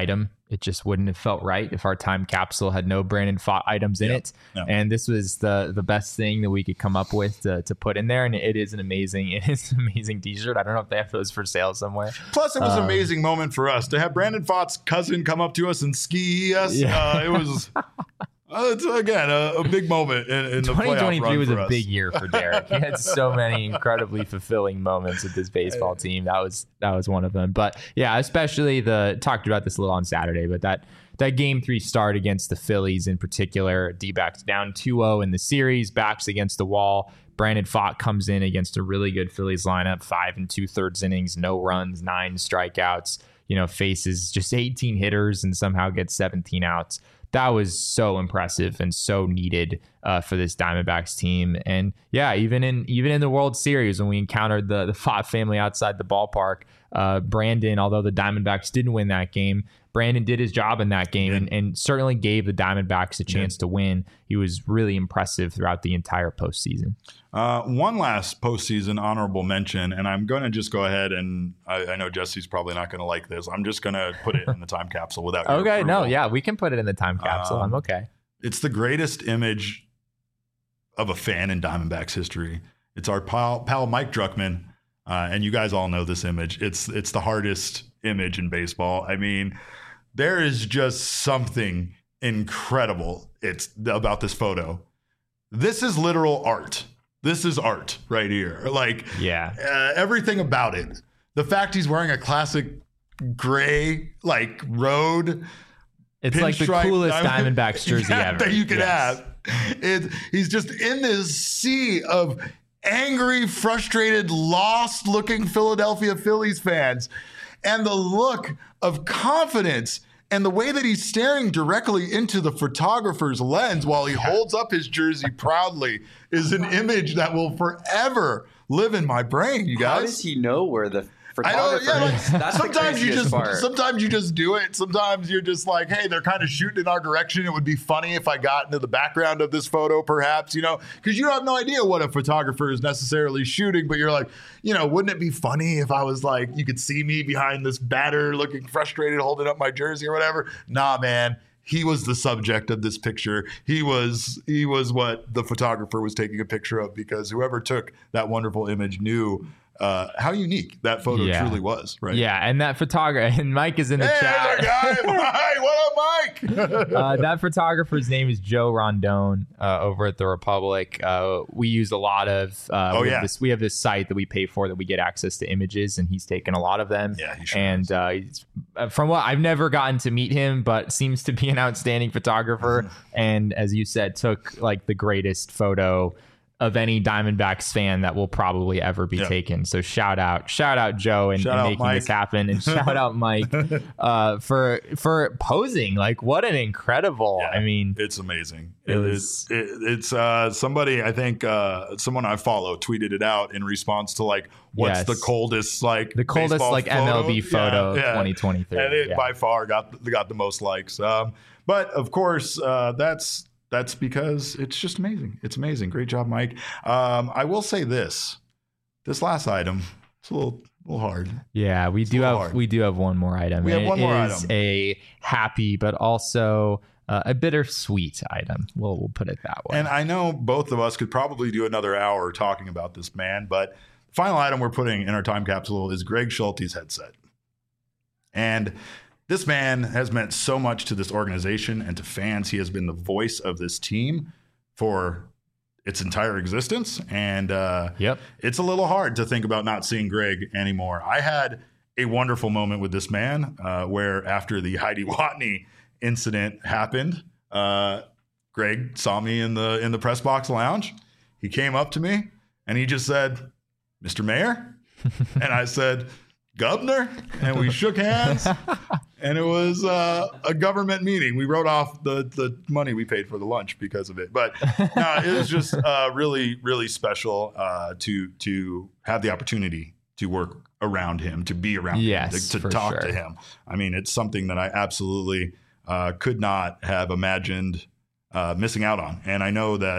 it just wouldn't have felt right if our time capsule had no Brandon Pfaadt items in it. No. And this was the best thing that we could come up with to put in there. And it is an amazing t-shirt. I don't know if they have those for sale somewhere. Plus, it was an amazing moment for us to have Brandon Pfaadt's cousin come up to us and ski us. Yeah. It was... it's, again, a big moment in the playoff run. 2023 was a big year for Derek. He had so many incredibly fulfilling moments with this baseball team. That was one of them. But yeah, especially talked about this a little on Saturday, but that Game 3 start against the Phillies in particular, D-backs down 2-0 in the series, backs against the wall. Brandon Pfaadt comes in against a really good Phillies lineup, 5 2/3 innings, no runs, 9 strikeouts, faces just 18 hitters and somehow gets 17 outs. That was so impressive and so needed for this Diamondbacks team. And yeah, even in the World Series when we encountered the Pfaadt family outside the ballpark, Brandon, although the Diamondbacks didn't win that game, Brandon did his job in that game and certainly gave the Diamondbacks a chance to win. He was really impressive throughout the entire postseason. One last postseason honorable mention, and I'm going to just go ahead and I know Jesse's probably not going to like this. I'm just going to put it in the time capsule without your okay, approval. No, yeah, we can put it in the time capsule. I'm okay. It's the greatest image of a fan in Diamondbacks history. It's our pal Mike Druckman, and you guys all know this image. It's the hardest image in baseball. I mean, there is just something incredible about this photo. This is literal art. This is art right here. Like, everything about it. The fact he's wearing a classic gray, like, road. It's like the coolest Diamondbacks jersey ever. That you could have. He's just in this sea of angry, frustrated, lost-looking Philadelphia Phillies fans. And the look of confidence and the way that he's staring directly into the photographer's lens while he holds up his jersey proudly is an image that will forever live in my brain, you guys. How does he know where the photographer is? That's sometimes you just do it. Sometimes you're just like, hey, they're kind of shooting in our direction. It would be funny if I got into the background of this photo, perhaps, because you have no idea what a photographer is necessarily shooting, but you're like, wouldn't it be funny if I was like, you could see me behind this batter looking frustrated, holding up my jersey or whatever? Nah, man. He was the subject of this picture. He was what the photographer was taking a picture of, because whoever took that wonderful image knew how unique that photo truly was, right? Yeah, and that photographer, and Mike is in the chat. Hey, guy. Hi, what up, Mike? That photographer's name is Joe Rondon over at The Republic. We use a lot of, we have this site that we pay for that we get access to images, and he's taken a lot of them. Yeah, he sure and from what I've never gotten to meet him, but seems to be an outstanding photographer. And as you said, took like the greatest photo of any Diamondbacks fan that will probably ever be taken. So shout out Joe and making this happen, and shout out Mike for posing. Like, what an incredible! Yeah, I mean, it's amazing. It's somebody, I think someone I follow tweeted it out in response to like, what's the coldest like MLB photo 2023, and it by far got the most likes. But of course, that's because it's just amazing. It's amazing. Great job, Mike. I will say this last item, it's a little hard. Yeah, we do have one more item. We have one more item. It is a happy but also a bittersweet item. We'll put it that way. And I know both of us could probably do another hour talking about this man, but the final item we're putting in our time capsule is Greg Schulte's headset. And this man has meant so much to this organization and to fans. He has been the voice of this team for its entire existence. And it's a little hard to think about not seeing Greg anymore. I had a wonderful moment with this man where after the Heidi Watney incident happened, Greg saw me in the press box lounge. He came up to me and he just said, "Mr. Mayor?" And I said, "Governor," and we shook hands, and it was a government meeting. We wrote off the money we paid for the lunch because of it. But no, it was just really, really special to have the opportunity to work around him, to be around him, to talk to him. I mean, it's something that I absolutely could not have imagined missing out on. And I know that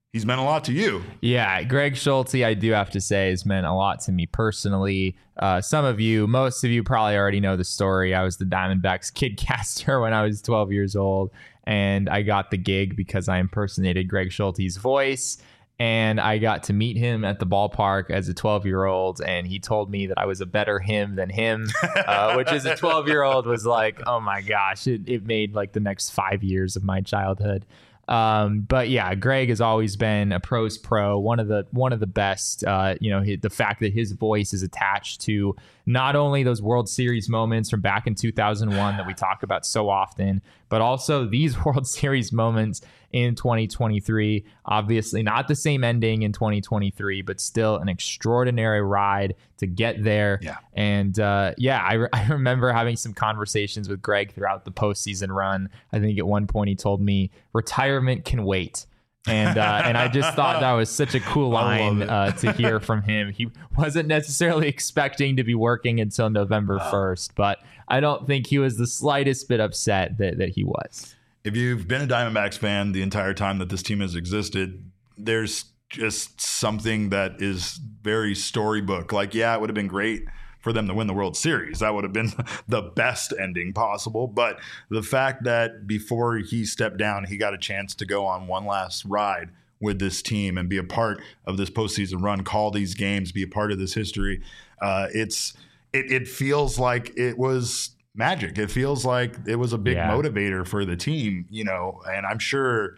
he's meant a lot to you. Yeah, Greg Schulte, I do have to say, has meant a lot to me personally. Most of you probably already know the story. I was the Diamondbacks kidcaster when I was 12 years old, and I got the gig because I impersonated Greg Schulte's voice. And I got to meet him at the ballpark as a 12-year-old, and he told me that I was a better him than him, which as a 12-year-old was like, oh my gosh, it made like the next 5 years of my childhood. But yeah, Greg has always been a pro's pro, one of the best. The fact that his voice is attached to not only those World Series moments from back in 2001 that we talk about so often, but also these World Series moments in 2023. Obviously not the same ending in 2023, but still an extraordinary ride to get there. Yeah. And I remember having some conversations with Greg throughout the postseason run. I think at one point he told me retirement can wait. And I just thought that was such a cool line to hear from him. He wasn't necessarily expecting to be working until November 1st, but I don't think he was the slightest bit upset that he was. If you've been a Diamondbacks fan the entire time that this team has existed, there's just something that is very storybook. Like, yeah, it would have been great for them to win the World Series. That would have been the best ending possible. But the fact that before he stepped down, he got a chance to go on one last ride with this team and be a part of this postseason run, call these games, be a part of this history. It feels like it was magic. It feels like it was a big motivator for the team, and I'm sure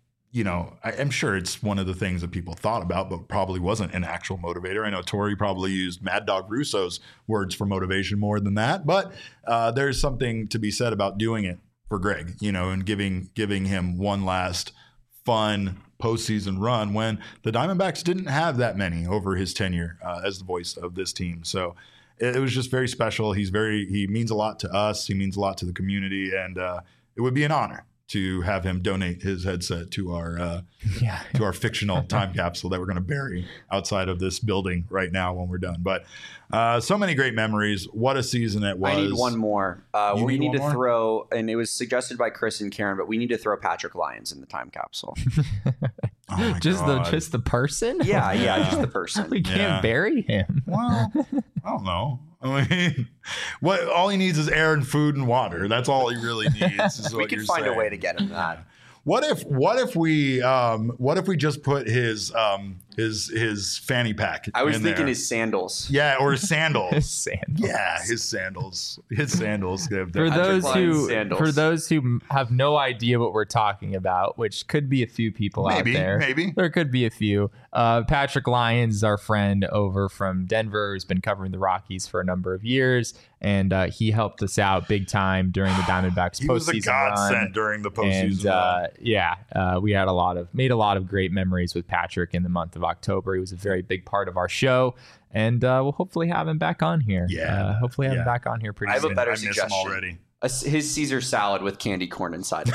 it's one of the things that people thought about, but probably wasn't an actual motivator. I know Torey probably used Mad Dog Russo's words for motivation more than that, but there's something to be said about doing it for Greg, and giving him one last fun postseason run when the Diamondbacks didn't have that many over his tenure as the voice of this team. So it was just very special. He means a lot to us. He means a lot to the community, and it would be an honor to have him donate his headset to our fictional time capsule that we're going to bury outside of this building right now when we're done. But so many great memories. What a season it was. I need one more. We need to throw, and it was suggested by Chris and Karen, but we need to throw Patrick Lyons in the time capsule. Just the person? Yeah, just the person. We can't bury him. Well, I don't know. I mean, all he needs is air and food and water. That's all he really needs. Is we could find a way to get him that. What if we just put his fanny pack? I was thinking there? His sandals. Yeah, or his sandals. His sandals. Yeah, his sandals. His sandals. For those who have no idea what we're talking about, which could be a few people out there. Maybe there could be a few. Patrick Lyons is our friend over from Denver, who's been covering the Rockies for a number of years, and he helped us out big time during the Diamondbacks postseason run. He was a godsend during the postseason run. We had made a lot of great memories with Patrick in the month of October. He was a very big part of our show, and we'll hopefully have him back on here. Hopefully have him back on here pretty soon. I have a better suggestion already. His Caesar salad with candy corn inside.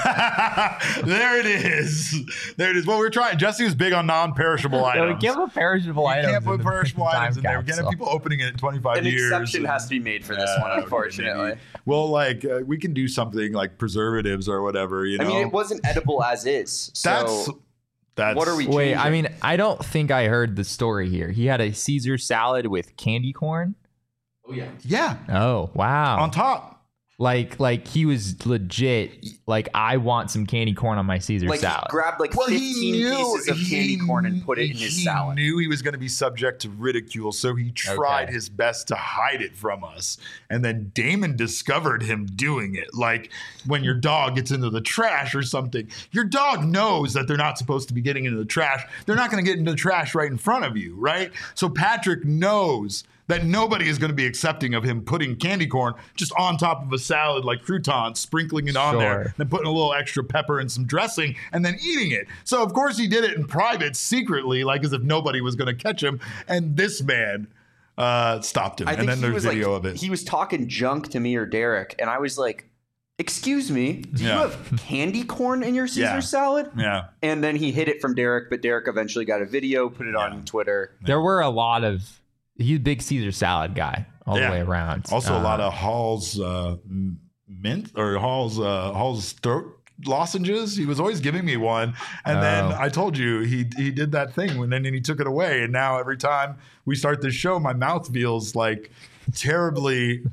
There it is. Well, we're trying. Jesse was big on non-perishable items. Give him perishable items. You can't put perishable items in there. We're getting people opening it in 25 years. An exception has to be made for this one, unfortunately. Well, we can do something like preservatives or whatever. I mean, it wasn't edible as is. So that's what are we? Wait, I mean, I don't think I heard the story here. He had a Caesar salad with candy corn. Oh yeah. Yeah. Oh wow. On top. Like he was legit. Like, I want some candy corn on my Caesar salad. He grabbed 15 pieces of candy corn and put it in his salad. He knew he was going to be subject to ridicule, so he tried his best to hide it from us. And then Damon discovered him doing it. Like when your dog gets into the trash or something, your dog knows that they're not supposed to be getting into the trash. They're not going to get into the trash right in front of you, right? So Patrick knows that nobody is going to be accepting of him putting candy corn just on top of a salad like croutons, sprinkling it on there, then putting a little extra pepper and some dressing, and then eating it. So, of course, he did it in private, secretly, like as if nobody was going to catch him. And this man stopped him. And then there's video of it. He was talking junk to me or Derek, and I was like, excuse me, do you have candy corn in your Caesar salad? Yeah. And then he hid it from Derek, but Derek eventually got a video, put it on Twitter. There were a lot of... He's a big Caesar salad guy all the way around. Also, a lot of Hall's mint or Hall's throat lozenges. He was always giving me one. And then I told you he did that thing and then he took it away. And now every time we start this show, my mouth feels like terribly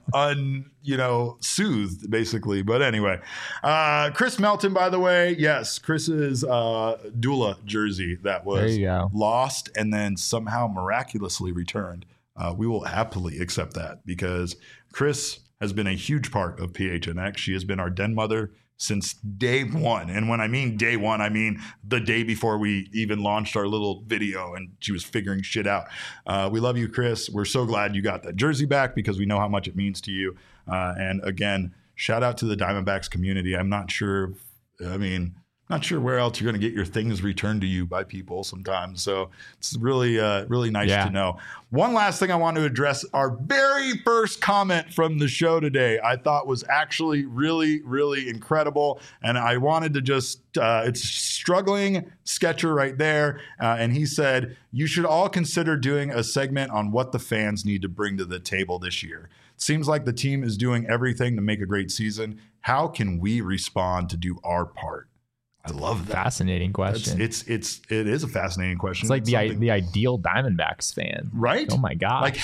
soothed, basically. But anyway, Chris Melton, by the way, yes, Chris's Dula jersey that was lost and then somehow miraculously returned. We will happily accept that because Chris has been a huge part of PHNX. She has been our den mother since day one. And when I mean day one, I mean the day before we even launched our little video and she was figuring shit out. We love you, Chris. We're so glad you got that jersey back because we know how much it means to you. And again, shout out to the Diamondbacks community. I'm not sure where else you're going to get your things returned to you by people sometimes. So it's really, really nice to know. One last thing I want to address, our very first comment from the show today, I thought was actually really, really incredible. And I wanted to just, it's Struggling Sketcher right there. And he said, you should all consider doing a segment on what the fans need to bring to the table this year. It seems like the team is doing everything to make a great season. How can we respond to do our part? I love that. Fascinating question. It is a fascinating question. It's like the ideal Diamondbacks fan, right? Oh my gosh! Like,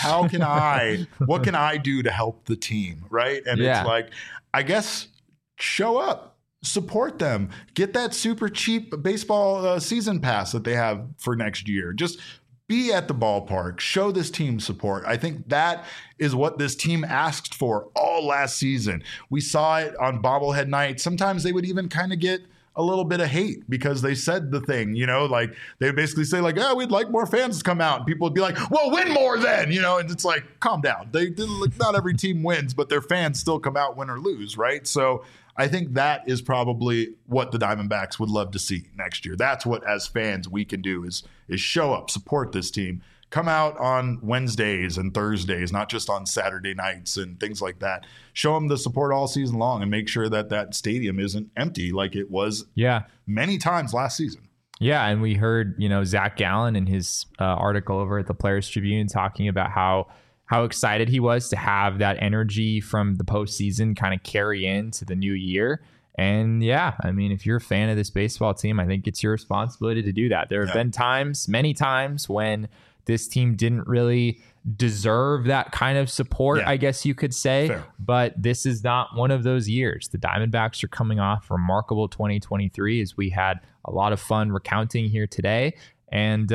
what can I do to help the team, right? And it's like, I guess, show up, support them, get that super cheap baseball season pass that they have for next year. Just be at the ballpark, show this team support. I think that is what this team asked for all last season. We saw it on bobblehead night. Sometimes they would even kind of get a little bit of hate because they said the thing, like they would basically say like, we'd like more fans to come out. And people would be like, well, win more then, and it's like, calm down. Not every team wins, but their fans still come out win or lose, right? So I think that is probably what the Diamondbacks would love to see next year. That's what, as fans, we can do is show up, support this team. Come out on Wednesdays and Thursdays, not just on Saturday nights and things like that. Show them the support all season long and make sure that stadium isn't empty like it was many times last season. Yeah, and we heard, Zach Gallen in his article over at the Players Tribune talking about how excited he was to have that energy from the postseason kind of carry into the new year. And if you're a fan of this baseball team, I think it's your responsibility to do that. There have been many times when this team didn't really deserve that kind of support, I guess you could say. Fair. But this is not one of those years. The Diamondbacks are coming off remarkable 2023, as we had a lot of fun recounting here today. And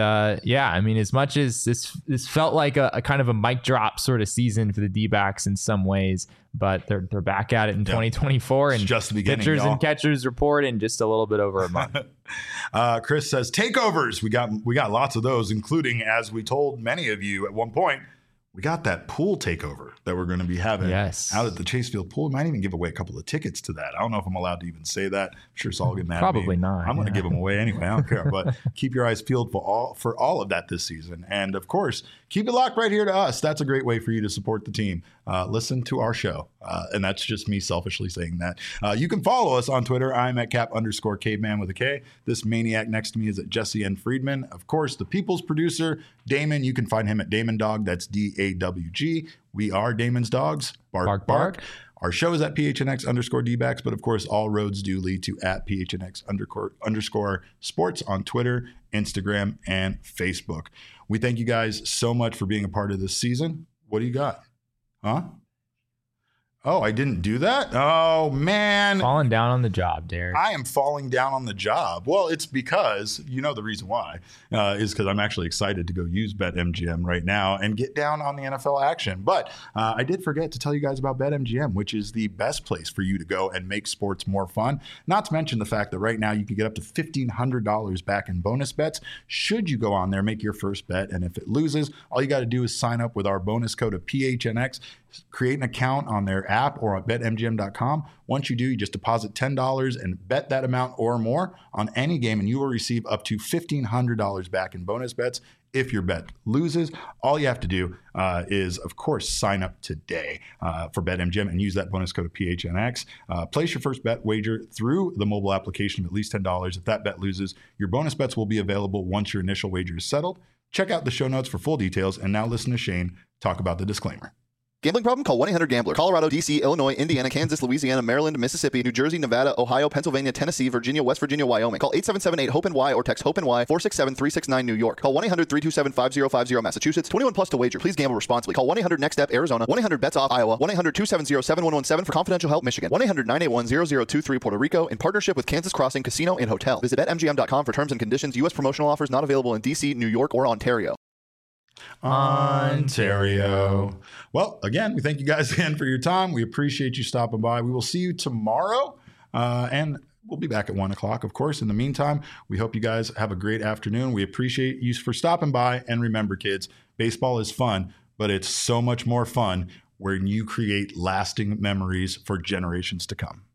as much as this felt like a kind of a mic drop sort of season for the D-backs in some ways, but they're back at it in 2024, and just the beginning, pitchers and catchers report in just a little bit over a month. Chris says takeovers. We got lots of those, including, as we told many of you at one point, we got that pool takeover that we're going to be having out at the Chase Field pool. We might even give away a couple of tickets to that. I don't know if I'm allowed to even say that. I'm sure Saul will get mad at me. Probably not. I'm going to give them away anyway. I don't care. But keep your eyes peeled for all of that this season. And, of course, keep it locked right here to us. That's a great way for you to support the team. Listen to our show. And that's just me selfishly saying that. You can follow us on Twitter. I'm at Cap_caveman with a K. This maniac next to me is at Jesse N. Friedman. Of course, the people's producer, Damon. You can find him at Damon Dog. That's DAWG. We are Damon's Dogs. Bark, bark. Our show is at PHNX_D-backs, but of course, all roads do lead to at PHNX_sports on Twitter, Instagram, and Facebook. We thank you guys so much for being a part of this season. What do you got? Huh? Oh, I didn't do that? Oh, man. Falling down on the job, Derek. I am falling down on the job. Well, it's because, the reason why, is because I'm actually excited to go use BetMGM right now and get down on the NFL action. But I did forget to tell you guys about BetMGM, which is the best place for you to go and make sports more fun. Not to mention the fact that right now you can get up to $1,500 back in bonus bets should you go on there, make your first bet. And if it loses, all you got to do is sign up with our bonus code of PHNX. Create an account on their app or at betmgm.com. Once you do, you just deposit $10 and bet that amount or more on any game, and you will receive up to $1,500 back in bonus bets. If your bet loses, all you have to do is, of course, sign up today for BetMGM and use that bonus code of PHNX. Place your first bet wager through the mobile application of at least $10. If that bet loses, your bonus bets will be available once your initial wager is settled. Check out the show notes for full details, and now listen to Shane talk about the disclaimer. Gambling problem? Call 1-800-GAMBLER. Colorado, D.C., Illinois, Indiana, Kansas, Louisiana, Maryland, Mississippi, New Jersey, Nevada, Ohio, Pennsylvania, Tennessee, Virginia, West Virginia, Wyoming. Call 877-8-HOPE-NY or text HOPE-NY 467-369 New York. Call 1-800-327-5050 Massachusetts. 21 plus to wager. Please gamble responsibly. Call 1-800-NEXT-STEP Arizona. 1-800-BETS-OFF Iowa. 1-800-270-7117 for confidential help Michigan. 1-800-981-0023 Puerto Rico in partnership with Kansas Crossing Casino and Hotel. Visit BetMGM.com for terms and conditions. U.S. promotional offers not available in D.C., New York, or Ontario. Ontario. Well, again, we thank you guys again for your time. We appreciate you stopping by. We will see you tomorrow, and we'll be back at 1 o'clock, of course. In the meantime, we hope you guys have a great afternoon. We appreciate you for stopping by. And remember, kids, baseball is fun, but it's so much more fun when you create lasting memories for generations to come.